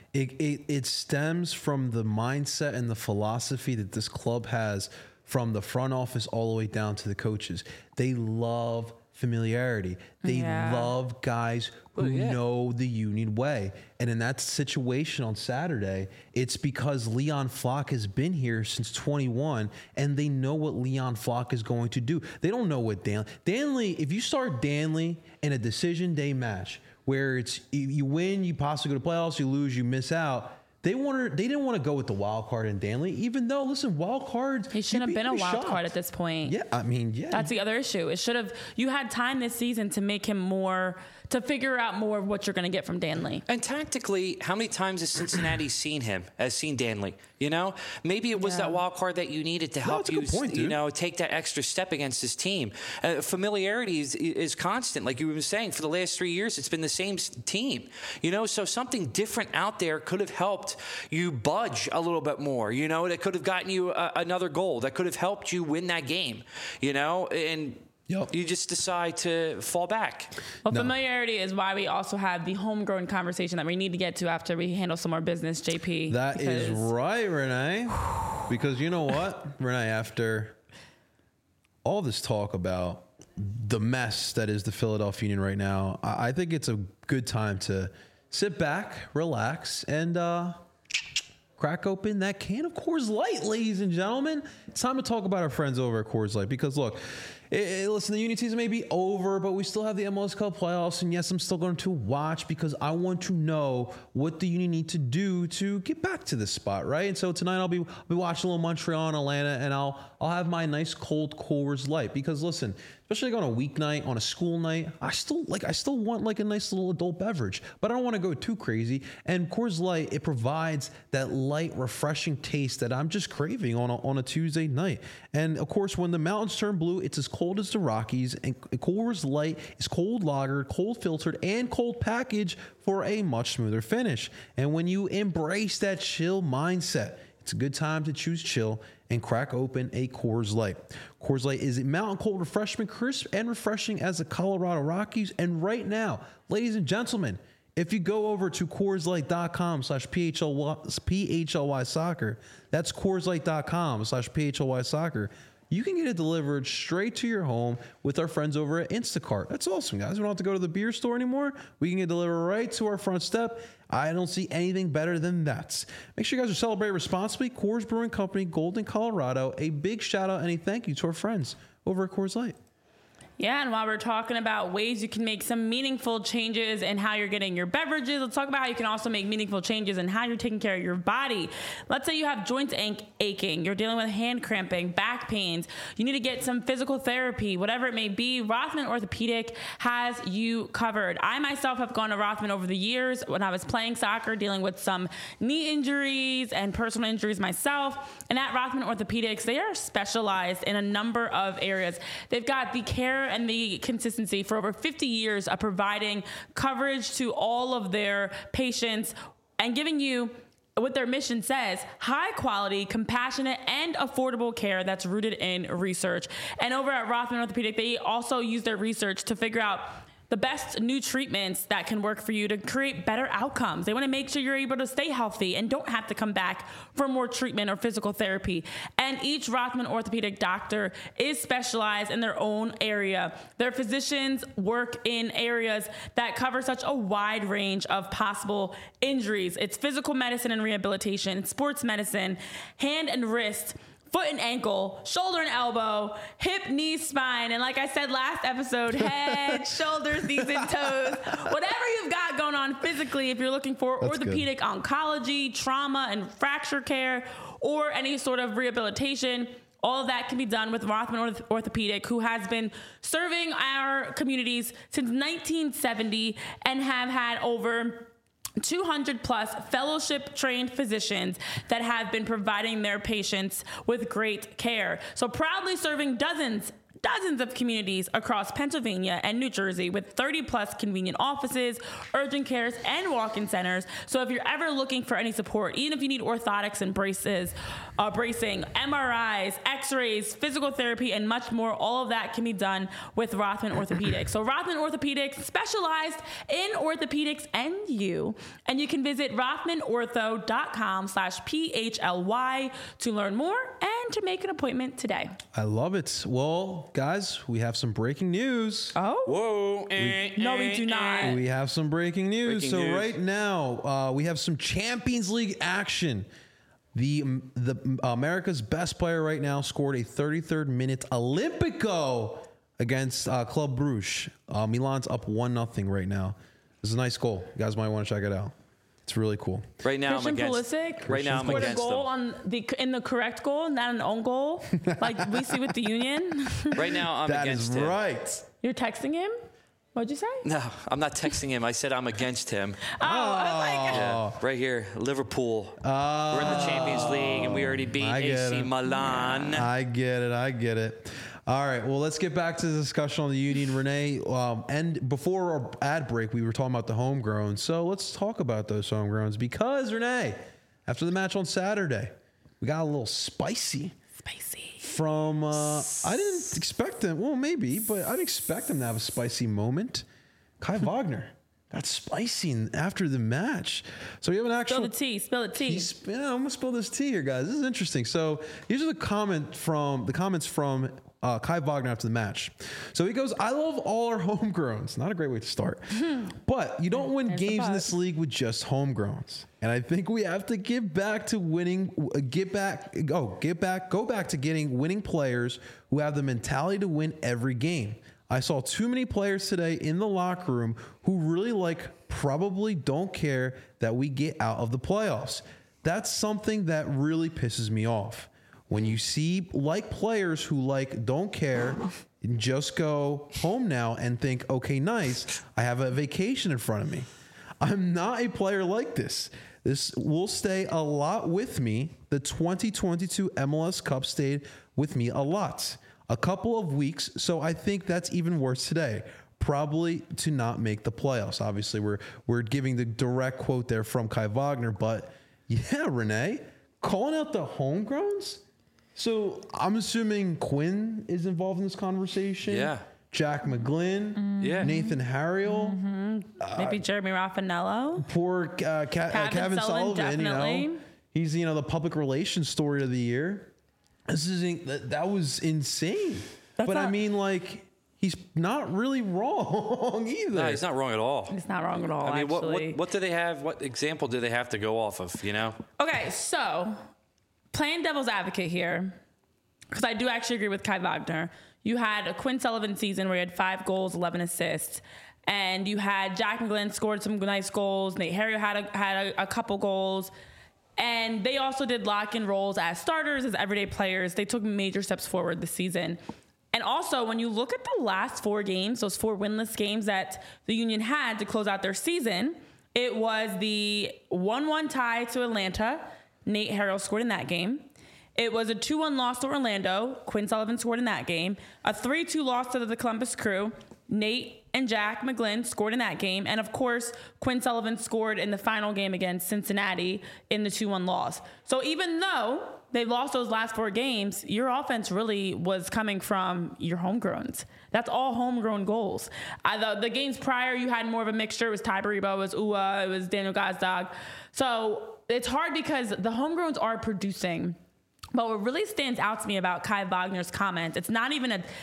Speaker 1: It stems from the mindset and the philosophy that this club has, from the front office all the way down to the coaches. They love familiarity. They love guys who know the Union way. And in that situation on Saturday, it's because Leon Flock has been here since 21, and they know what Leon Flock is going to do. They don't know what Danley, if you start Danley in a decision day match, where it's you win, you possibly go to playoffs, you lose, you miss out. They didn't want to go with the wild card in Danley, even though, listen, wild cards.
Speaker 3: He shouldn't have been a wild card at this point.
Speaker 1: Yeah, I mean,
Speaker 3: That's the other issue. It should have. You had time this season to make him to figure out more of what you're going to get from Danley.
Speaker 2: And tactically, how many times has Cincinnati seen Danley? You know, maybe it was that wild card that you needed to help you, take that extra step against this team. Familiarity is constant, like you were saying. For the last 3 years, it's been the same team. You know, so something different out there could have helped you budge a little bit more. You know, that could have gotten you another goal. That could have helped you win that game. You know, and. Yep. You just decide to fall back.
Speaker 3: Well, familiarity is why we also have the homegrown conversation that we need to get to after we handle some more business, JP.
Speaker 1: That is right, Renee. Because you know what, Renee, after all this talk about the mess that is the Philadelphia Union right now, I think it's a good time to sit back, relax, and crack open that can of Coors Light, ladies and gentlemen. It's time to talk about our friends over at Coors Light, because look, listen, the Union season may be over, but we still have the MLS Cup playoffs, and yes, I'm still going to watch because I want to know what the Union need to do to get back to this spot, right? And so tonight I'll be watching a little Montreal and Atlanta, and I'll have my nice cold Coors Light, because listen, especially like on a weeknight, on a school night, I still want like a nice little adult beverage, but I don't want to go too crazy. And Coors Light, it provides that light, refreshing taste that I'm just craving on a Tuesday night. And of course, when the mountains turn blue, it's as cold as the Rockies, and Coors Light is cold lagered, cold filtered, and cold packaged for a much smoother finish. And when you embrace that chill mindset, it's a good time to choose chill and crack open a Coors Light. Coors Light is a mountain cold refreshment, crisp and refreshing as the Colorado Rockies. And right now, ladies and gentlemen, if you go over to CoorsLight.com/PHLY soccer, that's CoorsLight.com/PHLY soccer, you can get it delivered straight to your home with our friends over at Instacart. That's awesome, guys. We don't have to go to the beer store anymore. We can get delivered right to our front step. I don't see anything better than that. Make sure you guys are celebrating responsibly. Coors Brewing Company, Golden, Colorado. A big shout out and a thank you to our friends over at Coors Light.
Speaker 3: Yeah, and while we're talking about ways you can make some meaningful changes in how you're getting your beverages, let's talk about how you can also make meaningful changes in how you're taking care of your body. Let's say you have joints aching, you're dealing with hand cramping, back pains, you need to get some physical therapy, whatever it may be, Rothman Orthopedic has you covered. I myself have gone to Rothman over the years when I was playing soccer, dealing with some knee injuries and personal injuries myself. And at Rothman Orthopedics, they are specialized in a number of areas. They've got the care and the consistency for over 50 years of providing coverage to all of their patients and giving you what their mission says, high quality, compassionate, and affordable care that's rooted in research. And over at Rothman Orthopedic, they also use their research to figure out the best new treatments that can work for you to create better outcomes. They want to make sure you're able to stay healthy and don't have to come back for more treatment or physical therapy. And each Rothman orthopedic doctor is specialized in their own area. Their physicians work in areas that cover such a wide range of possible injuries. It's physical medicine and rehabilitation, sports medicine, hand and wrist, foot and ankle, shoulder and elbow, hip, knee, spine, and like I said last episode, head, shoulders, knees, and toes. Whatever you've got going on physically, if you're looking for orthopedic oncology, trauma and fracture care, or any sort of rehabilitation, all of that can be done with Rothman Orthopedic, who has been serving our communities since 1970 and have had over 200 plus fellowship trained physicians that have been providing their patients with great care. So proudly serving dozens of communities across Pennsylvania and New Jersey with 30 plus convenient offices, urgent cares, and walk-in centers. So if you're ever looking for any support, even if you need orthotics and bracing, MRIs, x-rays, physical therapy, and much more, all of that can be done with Rothman Orthopedics. So Rothman Orthopedics, specialized in orthopedics and you can visit rothmanortho.com/PHLY to learn more and to make an appointment today.
Speaker 1: I love it. Well, guys, we have some breaking news.
Speaker 3: Oh?
Speaker 2: Whoa.
Speaker 3: No, we do not.
Speaker 1: We have some breaking news.
Speaker 2: Breaking news.
Speaker 1: Right now, we have some Champions League action. The America's best player right now scored a 33rd minute Olympico against Club Brugge. Milan's up 1-0 right now. This is a nice goal. You guys might want to check it out. It's really cool.
Speaker 2: Right now,
Speaker 3: Christian
Speaker 2: I'm against.
Speaker 3: Pulisic
Speaker 2: Right now, I'm
Speaker 3: scored a
Speaker 2: against
Speaker 3: goal
Speaker 2: them.
Speaker 3: in the correct goal, not an own goal, like we see with the Union.
Speaker 2: Right now, I'm
Speaker 1: That
Speaker 2: against
Speaker 1: is
Speaker 2: him.
Speaker 1: right.
Speaker 3: You're texting him? What'd you say?
Speaker 2: No, I'm not texting him. I said I'm against him.
Speaker 3: Oh, I was like,
Speaker 2: Yeah, right here, Liverpool. We're in the Champions League, and we already beat
Speaker 1: I get
Speaker 2: AC
Speaker 1: it.
Speaker 2: Milan.
Speaker 1: I get it. All right, well, let's get back to the discussion on the Union, Renee. And before our ad break, we were talking about the homegrown. So let's talk about those homegrowns because, Renee, after the match on Saturday, we got a little spicy. From, I didn't expect them. Well, maybe, but I didn't expect them to have a spicy moment. Kai Wagner got spicy after the match. So we have an actual...
Speaker 3: Spill the tea.
Speaker 1: I'm going to spill this tea here, guys. This is interesting. So here's the comments from Kai Wagner after the match. So he goes, I love all our homegrowns. Not a great way to start. But you don't win games in this league with just homegrowns. And I think we have to get back to winning, go back to getting winning players who have the mentality to win every game. I saw too many players today in the locker room who really probably don't care that we get out of the playoffs. That's something that really pisses me off. When you see players who don't care and just go home now and think, okay, nice, I have a vacation in front of me. I'm not a player like this. This will stay a lot with me. The 2022 MLS Cup stayed with me a lot. A couple of weeks, so I think that's even worse today. Probably to not make the playoffs. Obviously, we're giving the direct quote there from Kai Wagner, but yeah, Renee, calling out the homegrowns? So I'm assuming Quinn is involved in this conversation.
Speaker 2: Yeah.
Speaker 1: Jack McGlynn.
Speaker 2: Yeah.
Speaker 1: Nathan Harriel.
Speaker 3: Maybe Jeremy Raffanello.
Speaker 1: Poor Kevin Sullivan,
Speaker 3: definitely.
Speaker 1: He's, the public relations story of the year. That was insane. He's not really wrong either.
Speaker 2: No, he's not wrong at all.
Speaker 3: He's not wrong at all,
Speaker 2: I mean,
Speaker 3: actually.
Speaker 2: what do they have? What example do they have to go off of,
Speaker 3: Okay, so playing devil's advocate here, because I do actually agree with Kai Wagner. You had a Quinn Sullivan season where he had 5 goals, 11 assists. And you had Jack McGlynn scored some nice goals. Nate Harriel had a couple goals. And they also did lock-in roles as starters, as everyday players. They took major steps forward this season. And also, when you look at the last 4 games, those 4 winless games that the Union had to close out their season, it was the 1-1 tie to Atlanta. Nate Harriel scored in that game. It was a 2-1 loss to Orlando. Quinn Sullivan scored in that game. A 3-2 loss to the Columbus Crew. Nate and Jack McGlynn scored in that game. And of course, Quinn Sullivan scored in the final game against Cincinnati in the 2-1 loss. So even though they lost those last 4 games, your offense really was coming from your homegrowns. That's all homegrown goals. The games prior, you had more of a mixture. It was Ty Baribo, it was Ua, it was Daniel Gazdag. So it's hard because the homegrowns are producing. But what really stands out to me about Kai Wagner's comments, it's not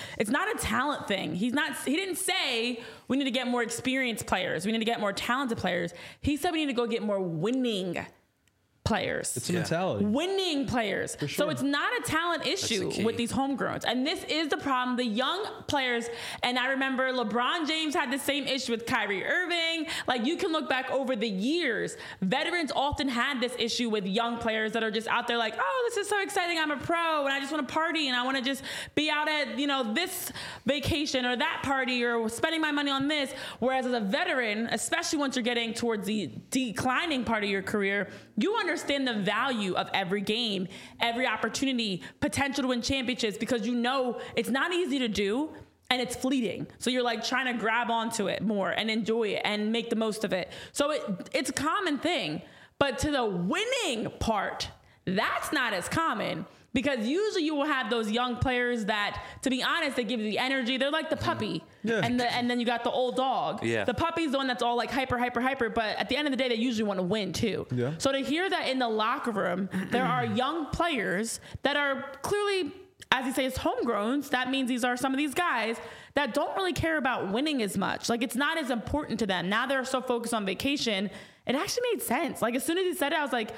Speaker 3: a talent thing. He didn't say we need to get more experienced players. We need to get more talented players. He said we need to go get more winning players.
Speaker 1: It's a mentality.
Speaker 3: Winning players.
Speaker 1: Sure.
Speaker 3: So it's not a talent issue with these homegrowns. And this is the problem. The young players, and I remember LeBron James had the same issue with Kyrie Irving. Like, you can look back over the years. Veterans often had this issue with young players that are just out there like, oh, this is so exciting. I'm a pro and I just want to party and I want to just be out at, this vacation or that party or spending my money on this. Whereas as a veteran, especially once you're getting towards the declining part of your career, you understand the value of every game, every opportunity, potential to win championships, because it's not easy to do and it's fleeting. So you're like trying to grab onto it more and enjoy it and make the most of it. So it's a common thing. But to the winning part, that's not as common. Because usually you will have those young players that, to be honest, they give you the energy. They're like the puppy. Yeah. And then you got the old dog. Yeah. The puppy's the one that's all like hyper. But at the end of the day, they usually want to win too. Yeah. So to hear that in the locker room, there are young players that are clearly, as you say, it's homegrowns. That means these are some of these guys that don't really care about winning as much. Like, it's not as important to them. Now they're so focused on vacation. It actually made sense. Like, as soon as he said it, I was like,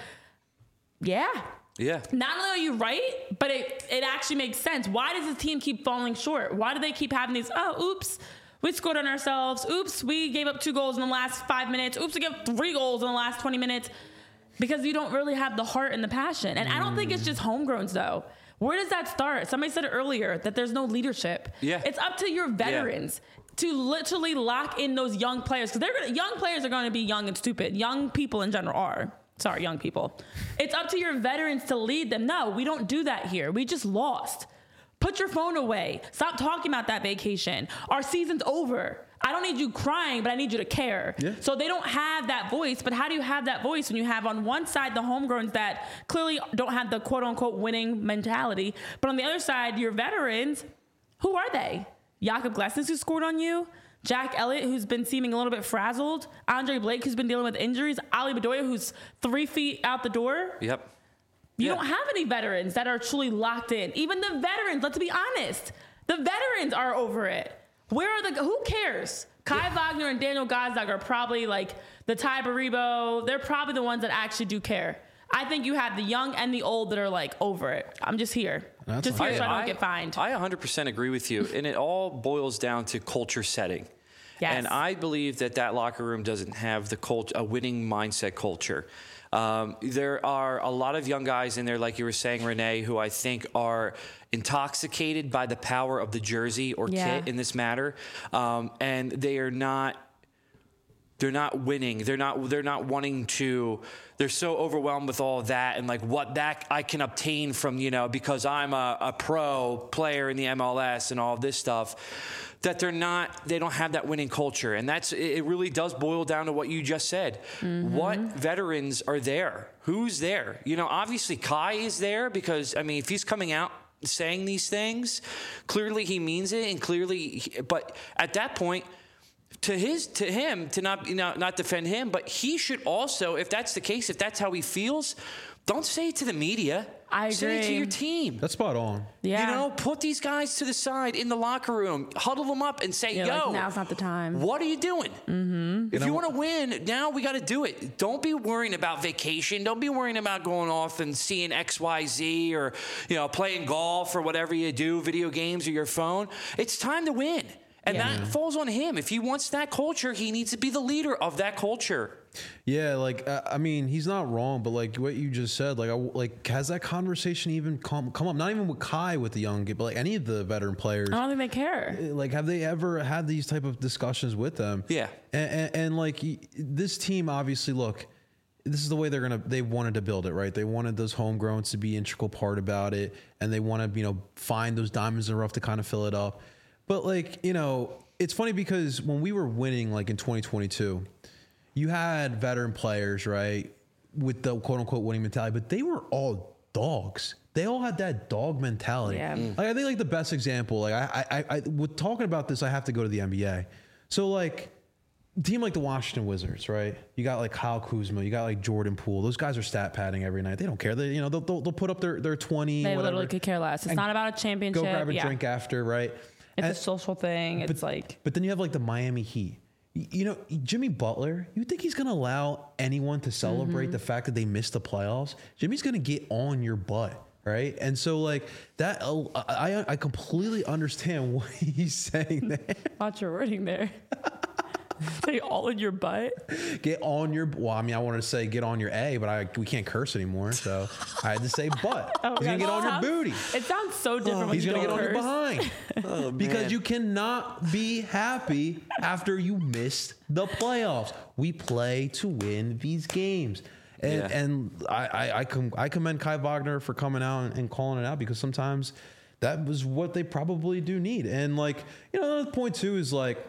Speaker 3: yeah.
Speaker 2: Yeah.
Speaker 3: Not only are you right, but it actually makes sense. Why does this team keep falling short? Why do they keep having these, oops, we scored on ourselves. Oops, we gave up 2 goals in the last 5 minutes. Oops, we gave 3 goals in the last 20 minutes. Because you don't really have the heart and the passion. And I don't think it's just homegrowns, though. Where does that start? Somebody said earlier that there's no leadership. Yeah. It's up to your veterans to literally lock in those young players. Because young players are going to be young and stupid. Young people in general are. Sorry, young people. It's up to your veterans to lead them. No, we don't do that here. We just lost. Put your phone away. Stop talking about that vacation. Our season's over. I don't need you crying, but I need you to care. Yeah. So they don't have that voice. But how do you have that voice when you have on one side the homegrowns that clearly don't have the quote-unquote winning mentality, but on the other side, your veterans, who are they? Jakob Glesnes, who scored on you? Jack Elliott, who's been seeming a little bit frazzled. Andre Blake, who's been dealing with injuries. Ali Bedoya, who's 3 feet out the door.
Speaker 2: Yep.
Speaker 3: You don't have any veterans that are truly locked in. Even the veterans, let's be honest, the veterans are over it. Who cares? Kai Wagner and Daniel Gazdag are probably like the Ty Baribo. They're probably the ones that actually do care. I think you have the young and the old that are like over it. I'm just here. Just here so I don't get fined.
Speaker 2: I 100% agree with you. And it all boils down to culture setting.
Speaker 3: Yes.
Speaker 2: And I believe that locker room doesn't have a winning mindset culture. There are a lot of young guys in there, like you were saying, Renee, who I think are intoxicated by the power of the jersey or kit in this matter. And they're not winning. They're not wanting to. They're so overwhelmed with all of that and like what that I can obtain from, because I'm a pro player in the MLS and all of this stuff, that they don't have that winning culture. And it really does boil down to what you just said. Mm-hmm. What veterans are there? Who's there? Obviously Kai is there because, if he's coming out saying these things, clearly he means it, and but at that point, to him to not defend him, but he should also, if that's the case, if that's how he feels, don't say it to the media.
Speaker 3: I agree.
Speaker 2: Say it to your team.
Speaker 1: That's spot on.
Speaker 3: Yeah.
Speaker 2: Put these guys to the side in the locker room, huddle them up, and say,
Speaker 3: now's not the time.
Speaker 2: What are you doing?
Speaker 3: Mm-hmm.
Speaker 2: If you want to win, now we got to do it. Don't be worrying about vacation. Don't be worrying about going off and seeing XYZ or playing golf or whatever you do, video games or your phone. It's time to win. And that falls on him. If he wants that culture, he needs to be the leader of that culture.
Speaker 1: Yeah, he's not wrong, but like what you just said, has that conversation even come up? Not even with Kai, with the young kid, but like any of the veteran players.
Speaker 3: I don't think they care.
Speaker 1: Like, have they ever had these type of discussions with them?
Speaker 2: Yeah.
Speaker 1: And like this team, obviously, look, this is the way they wanted to build it, right? They wanted those homegrowns to be an integral part about it, and they want to, find those diamonds in the rough to kind of fill it up. But like, it's funny because when we were winning, like in 2022, you had veteran players, right, with the quote unquote winning mentality, but they were all dogs. They all had that dog mentality.
Speaker 3: Yeah.
Speaker 1: Like, I think like the best example, like I with talking about this, I have to go to the NBA. So like, team like the Washington Wizards, right? You got like Kyle Kuzma, you got like Jordan Poole. Those guys are stat padding every night. They don't care. They, they'll put up their 20.
Speaker 3: They
Speaker 1: whatever,
Speaker 3: literally could care less. It's not about a championship.
Speaker 1: go grab a drink after, right?
Speaker 3: It's a social thing. It's
Speaker 1: But then you have like the Miami Heat. Jimmy Butler, you think he's going to allow anyone to celebrate the fact that they missed the playoffs? Jimmy's going to get on your butt, right? And so like that, I completely understand what he's saying there.
Speaker 3: Watch your wording there. Say all in your butt.
Speaker 1: Get on your. Well, I mean, I wanted to say get on your A, but we can't curse anymore, so I had to say butt. He's gonna get on your booty.
Speaker 3: It sounds so different. When
Speaker 1: He's
Speaker 3: you
Speaker 1: gonna
Speaker 3: don't
Speaker 1: get on
Speaker 3: curse.
Speaker 1: your behind because you cannot be happy after you missed the playoffs. We play to win these games. And I commend Kai Wagner for coming out and calling it out because sometimes that was what they probably do need. And like, another point too is like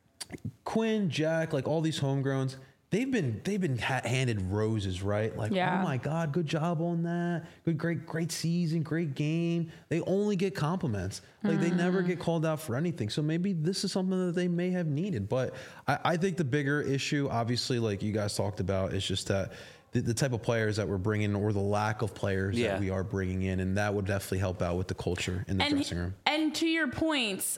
Speaker 1: Quinn, Jack, like all these homegrowns, they've been handed roses, right? Like, oh my God, good job on that. Great season, great game. They only get compliments. Like they never get called out for anything. So maybe this is something that they may have needed. But I think the bigger issue, obviously, like you guys talked about, is just that the type of players that we're bringing or the lack of players that we are bringing in. And that would definitely help out with the culture in the dressing room.
Speaker 3: And to your points,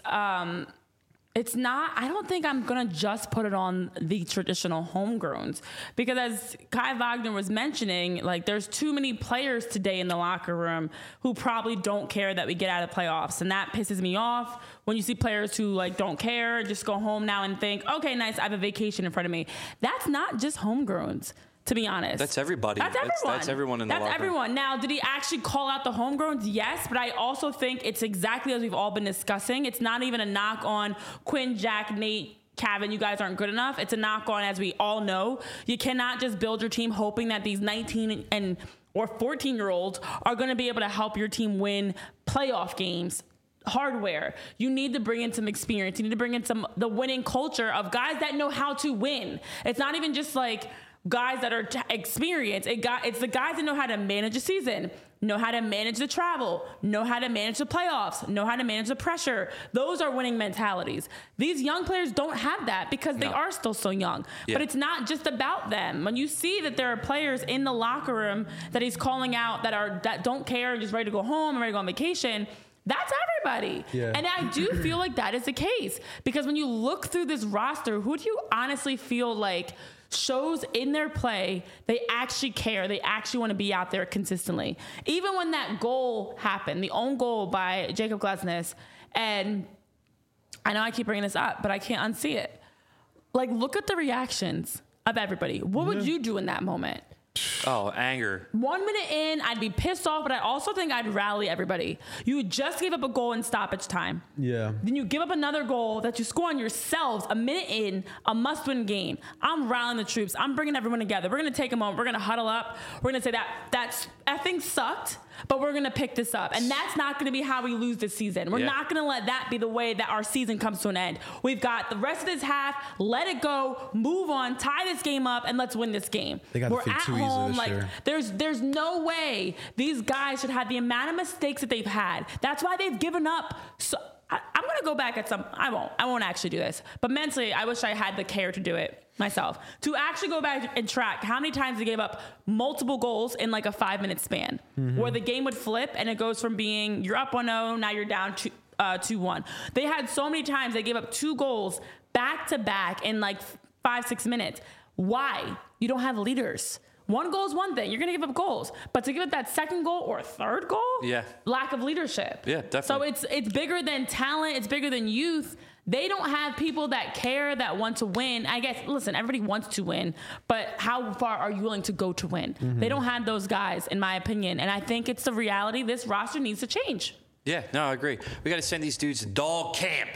Speaker 3: it's not, I don't think I'm going to just put it on the traditional homegrowns because as Kai Wagner was mentioning, like there's too many players today in the locker room who probably don't care that we get out of playoffs. And that pisses me off when you see players who like don't care, just go home now and think, okay, nice, I have a vacation in front of me. That's not just homegrowns. To be honest.
Speaker 2: That's everybody.
Speaker 3: That's everyone.
Speaker 2: That's everyone in the locker room.
Speaker 3: That's everyone. Now, did he actually call out the homegrowns? Yes, but I also think it's exactly as we've all been discussing. It's not even a knock on Quinn, Jack, Nate, Kevin, you guys aren't good enough. It's a knock on, as we all know, you cannot just build your team hoping that these 19 or 14-year-olds are going to be able to help your team win playoff games. Hardware. You need to bring in some experience. You need to bring in the winning culture of guys that know how to win. It's not even just like guys that are experienced. It's the guys that know how to manage a season, know how to manage the travel, know how to manage the playoffs, know how to manage the pressure. Those are winning mentalities. These young players don't have that because they are still so young. Yeah. But it's not just about them. When you see that there are players in the locker room that he's calling out that don't care and just ready to go home and ready to go on vacation, that's everybody. Yeah. And I do feel like that is the case because when you look through this roster, who do you honestly feel like shows in their play they actually care, they actually want to be out there consistently? Even when that goal happened, the own goal by Jacob Glesnes, and I know I keep bringing this up, but I can't unsee it. Like, look at the reactions of everybody. What would you do in that moment?
Speaker 2: Oh, anger.
Speaker 3: 1 minute in, I'd be pissed off, but I also think I'd rally everybody. You just gave up a goal in stoppage time.
Speaker 1: Yeah.
Speaker 3: Then you give up another goal that you score on yourselves a minute in, a must-win game. I'm rallying the troops. I'm bringing everyone together. We're going to take a moment. We're going to huddle up. We're going to say that's effing sucked, but we're going to pick this up. And that's not going to be how we lose this season. We're not going to let that be the way that our season comes to an end. We've got the rest of this half. Let it go. Move on. Tie this game up, and let's win this game.
Speaker 1: They got
Speaker 3: We're
Speaker 1: to
Speaker 3: at
Speaker 1: too
Speaker 3: home.
Speaker 1: Easy
Speaker 3: Like,
Speaker 1: this year.
Speaker 3: there's no way these guys should have the amount of mistakes that they've had. That's why they've given up. So I'm going to go back at some. I won't actually do this. But mentally, I wish I had the care to do it myself. To actually go back and track how many times they gave up multiple goals in like a 5-minute span, where the game would flip and it goes from being you're up 1-0, now you're down 2-1. They had so many times they gave up 2 goals back to back in like 5-6 minutes. Why? You don't have leaders. 1 goal is one thing. You're going to give up goals. But to give up that second goal or third goal? Lack of leadership.
Speaker 2: Yeah, definitely.
Speaker 3: So it's bigger than talent. It's bigger than youth. They don't have people that care, that want to win. I guess, listen, everybody wants to win, but how far are you willing to go to win? They don't have those guys, in my opinion. And I think it's the reality. This roster needs to change.
Speaker 2: Yeah, no, I agree. We got to send these dudes to dog camp.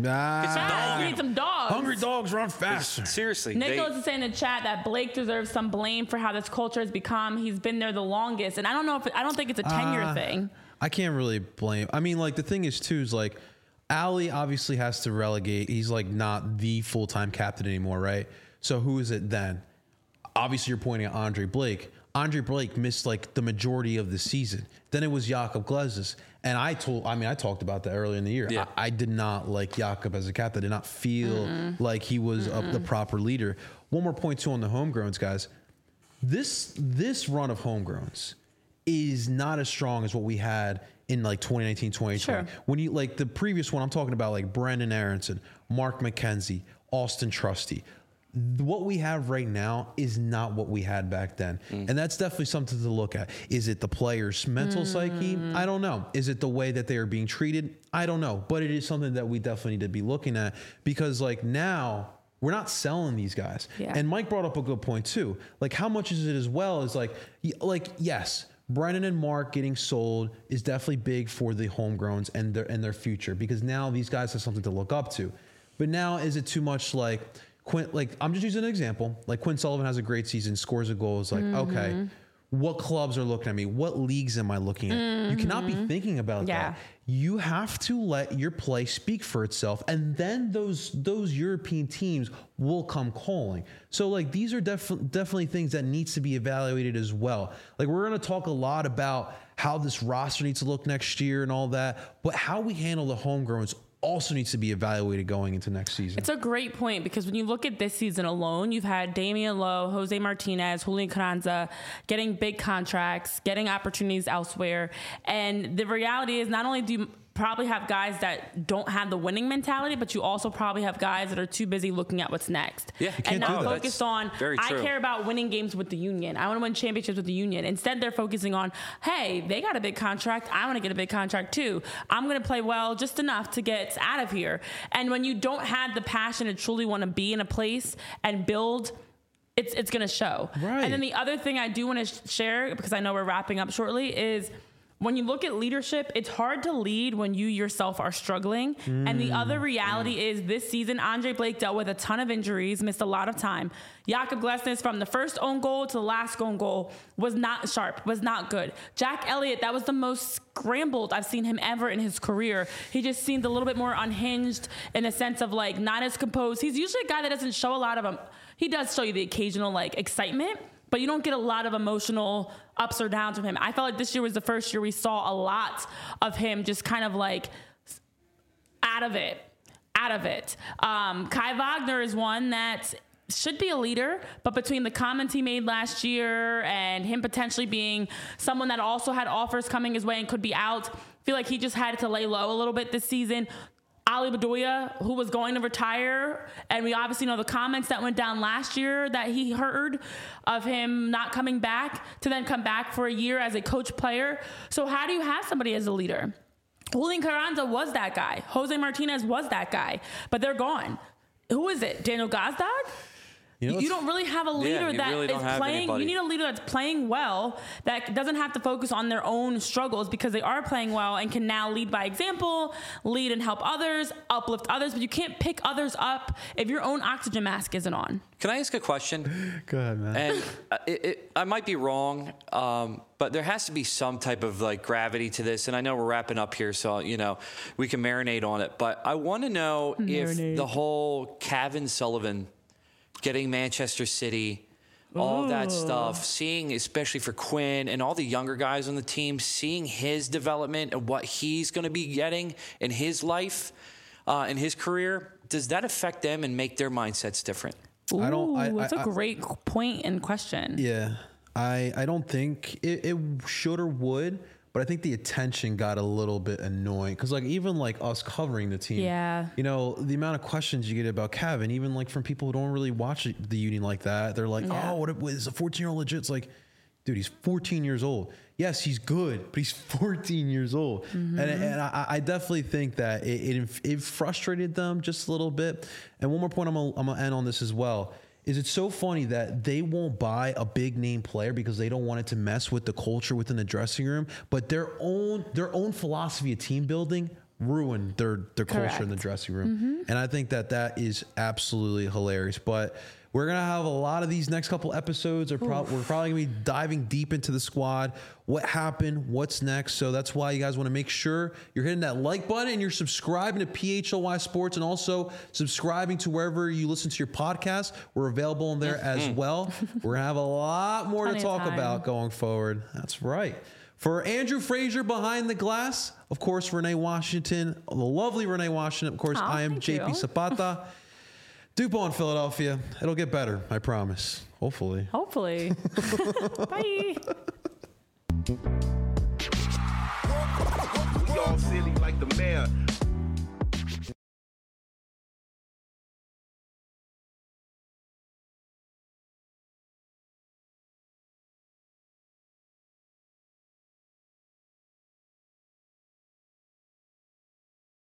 Speaker 3: Nah. We need some dogs.
Speaker 1: Hungry dogs run faster.
Speaker 2: Seriously.
Speaker 3: Nicholas is saying in the chat that Blake deserves some blame for how this culture has become. He's been there the longest. And I don't think it's a tenure thing.
Speaker 1: I can't really blame. I mean, like, the thing is, too, is like, Ali obviously has to relegate. He's like not the full-time captain anymore, right? So who is it then? Obviously, you're pointing at Andre Blake. Andre Blake missed like the majority of the season. Then it was Jakob Glesnes. And I talked about that earlier in the year.
Speaker 2: Yeah.
Speaker 1: I did not like Jakob as a captain. I did not feel like he was the proper leader. One more point too on the homegrowns, guys. This run of homegrowns is not as strong as what we had in like 2019, 2020.
Speaker 3: Sure.
Speaker 1: When you like the previous one, I'm talking about like Brendan Aronson, Mark McKenzie, Austin Trusty. What we have right now is not what we had back then. And that's definitely something to look at. Is it the player's mental psyche? I don't know. Is it the way that they are being treated? I don't know. But it is something that we definitely need to be looking at, because like now we're not selling these guys.
Speaker 3: Yeah.
Speaker 1: And Mike brought up a good point too. Like how much is it as well as like yes, Brennan and Mark getting sold is definitely big for the homegrowns and their future, because now these guys have something to look up to. But now is it too much like Quinn, like I'm just using an example. Like Quinn Sullivan has a great season, scores a goal. It's like, okay, what clubs are looking at me? What leagues am I looking at? You cannot be thinking about that. You have to let your play speak for itself, and then those European teams will come calling. So like these are definitely things that needs to be evaluated as well. Like we're going to talk a lot about how this roster needs to look next year and all that, but how we handle the homegrowns also needs to be evaluated going into next season.
Speaker 3: It's a great point, because when you look at this season alone, you've had Damian Lowe, Jose Martinez, Julian Carranza getting big contracts, getting opportunities elsewhere. And the reality is, not only do you probably have guys that don't have the winning mentality, but you also probably have guys that are too busy looking at what's next.
Speaker 2: Yeah,
Speaker 3: and not
Speaker 1: that.
Speaker 3: focused on, I care about winning games with the Union. I want to win championships with the Union. Instead, they're focusing on, hey, they got a big contract. I want to get a big contract too. I'm going to play well just enough to get out of here. And when you don't have the passion to truly want to be in a place and build, it's going to show.
Speaker 1: Right.
Speaker 3: And then the other thing I do want to share, because I know we're wrapping up shortly, is when you look at leadership, it's hard to lead when you yourself are struggling. And the other reality is this season, Andre Blake dealt with a ton of injuries, missed a lot of time. Jakob Glesnes, from the first own goal to the last own goal, was not sharp, was not good. Jack Elliott, that was the most scrambled I've seen him ever in his career. He just seemed a little bit more unhinged in the sense of like not as composed. He's usually a guy that doesn't show a lot of he does show you the occasional like excitement, but you don't get a lot of emotional ups or downs from him. I felt like this year was the first year we saw a lot of him just kind of like out of it. Kai Wagner is one that should be a leader, but between the comments he made last year and him potentially being someone that also had offers coming his way and could be out, I feel like he just had to lay low a little bit this season. Ali Bedoya, who was going to retire, and we obviously know the comments that went down last year that he heard of him not coming back to then come back for a year as a coach player. So how do you have somebody as a leader? Julian Carranza was that guy. Jose Martinez was that guy, but they're gone. Who is it? Daniel Gazdag? You don't really have a leader that
Speaker 2: really
Speaker 3: is playing.
Speaker 2: Anybody.
Speaker 3: You need a leader that's playing well, that doesn't have to focus on their own struggles, because they are playing well and can now lead by example, lead and help others, uplift others. But you can't pick others up if your own oxygen mask isn't on.
Speaker 2: Can I ask a question?
Speaker 1: Go ahead, man.
Speaker 2: And I might be wrong, but there has to be some type of like gravity to this. And I know we're wrapping up here, so we can marinate on it. But I want to know if the whole Kevin Sullivan getting Manchester City, all that stuff, seeing, especially for Quinn and all the younger guys on the team, seeing his development and what he's going to be getting in his life, in his career, does that affect them and make their mindsets different?
Speaker 3: That's a great point and question.
Speaker 1: Yeah, I don't think it should or would, but I think the attention got a little bit annoying, because like even like us covering the team, the amount of questions you get about Kevin, even like from people who don't really watch the Union like that, they're like, oh, what is a 14-year-old legit? It's like, dude, he's 14 years old. Yes, he's good, but he's 14 years old. And I definitely think that it frustrated them just a little bit. And one more point I'm gonna end on this as well. Is it's so funny that they won't buy a big name player because they don't want it to mess with the culture within the dressing room, but their own philosophy of team building ruin their culture in the dressing room. And I think that is absolutely hilarious. But we're going to have a lot of these next couple episodes. We're probably going to be diving deep into the squad, what happened, what's next. So that's why you guys want to make sure you're hitting that like button and you're subscribing to PHLY Sports and also subscribing to wherever you listen to your podcast. We're available in there as well. We're going to have a lot more to talk about going forward. That's right. For Andrew Frazier behind the glass, of course, Renee Washington, the lovely Renee Washington. Of course, I am JP Zapata. DuPont, Philadelphia. It'll get better, I promise. Hopefully.
Speaker 3: Bye.
Speaker 4: We all silly like the mayor.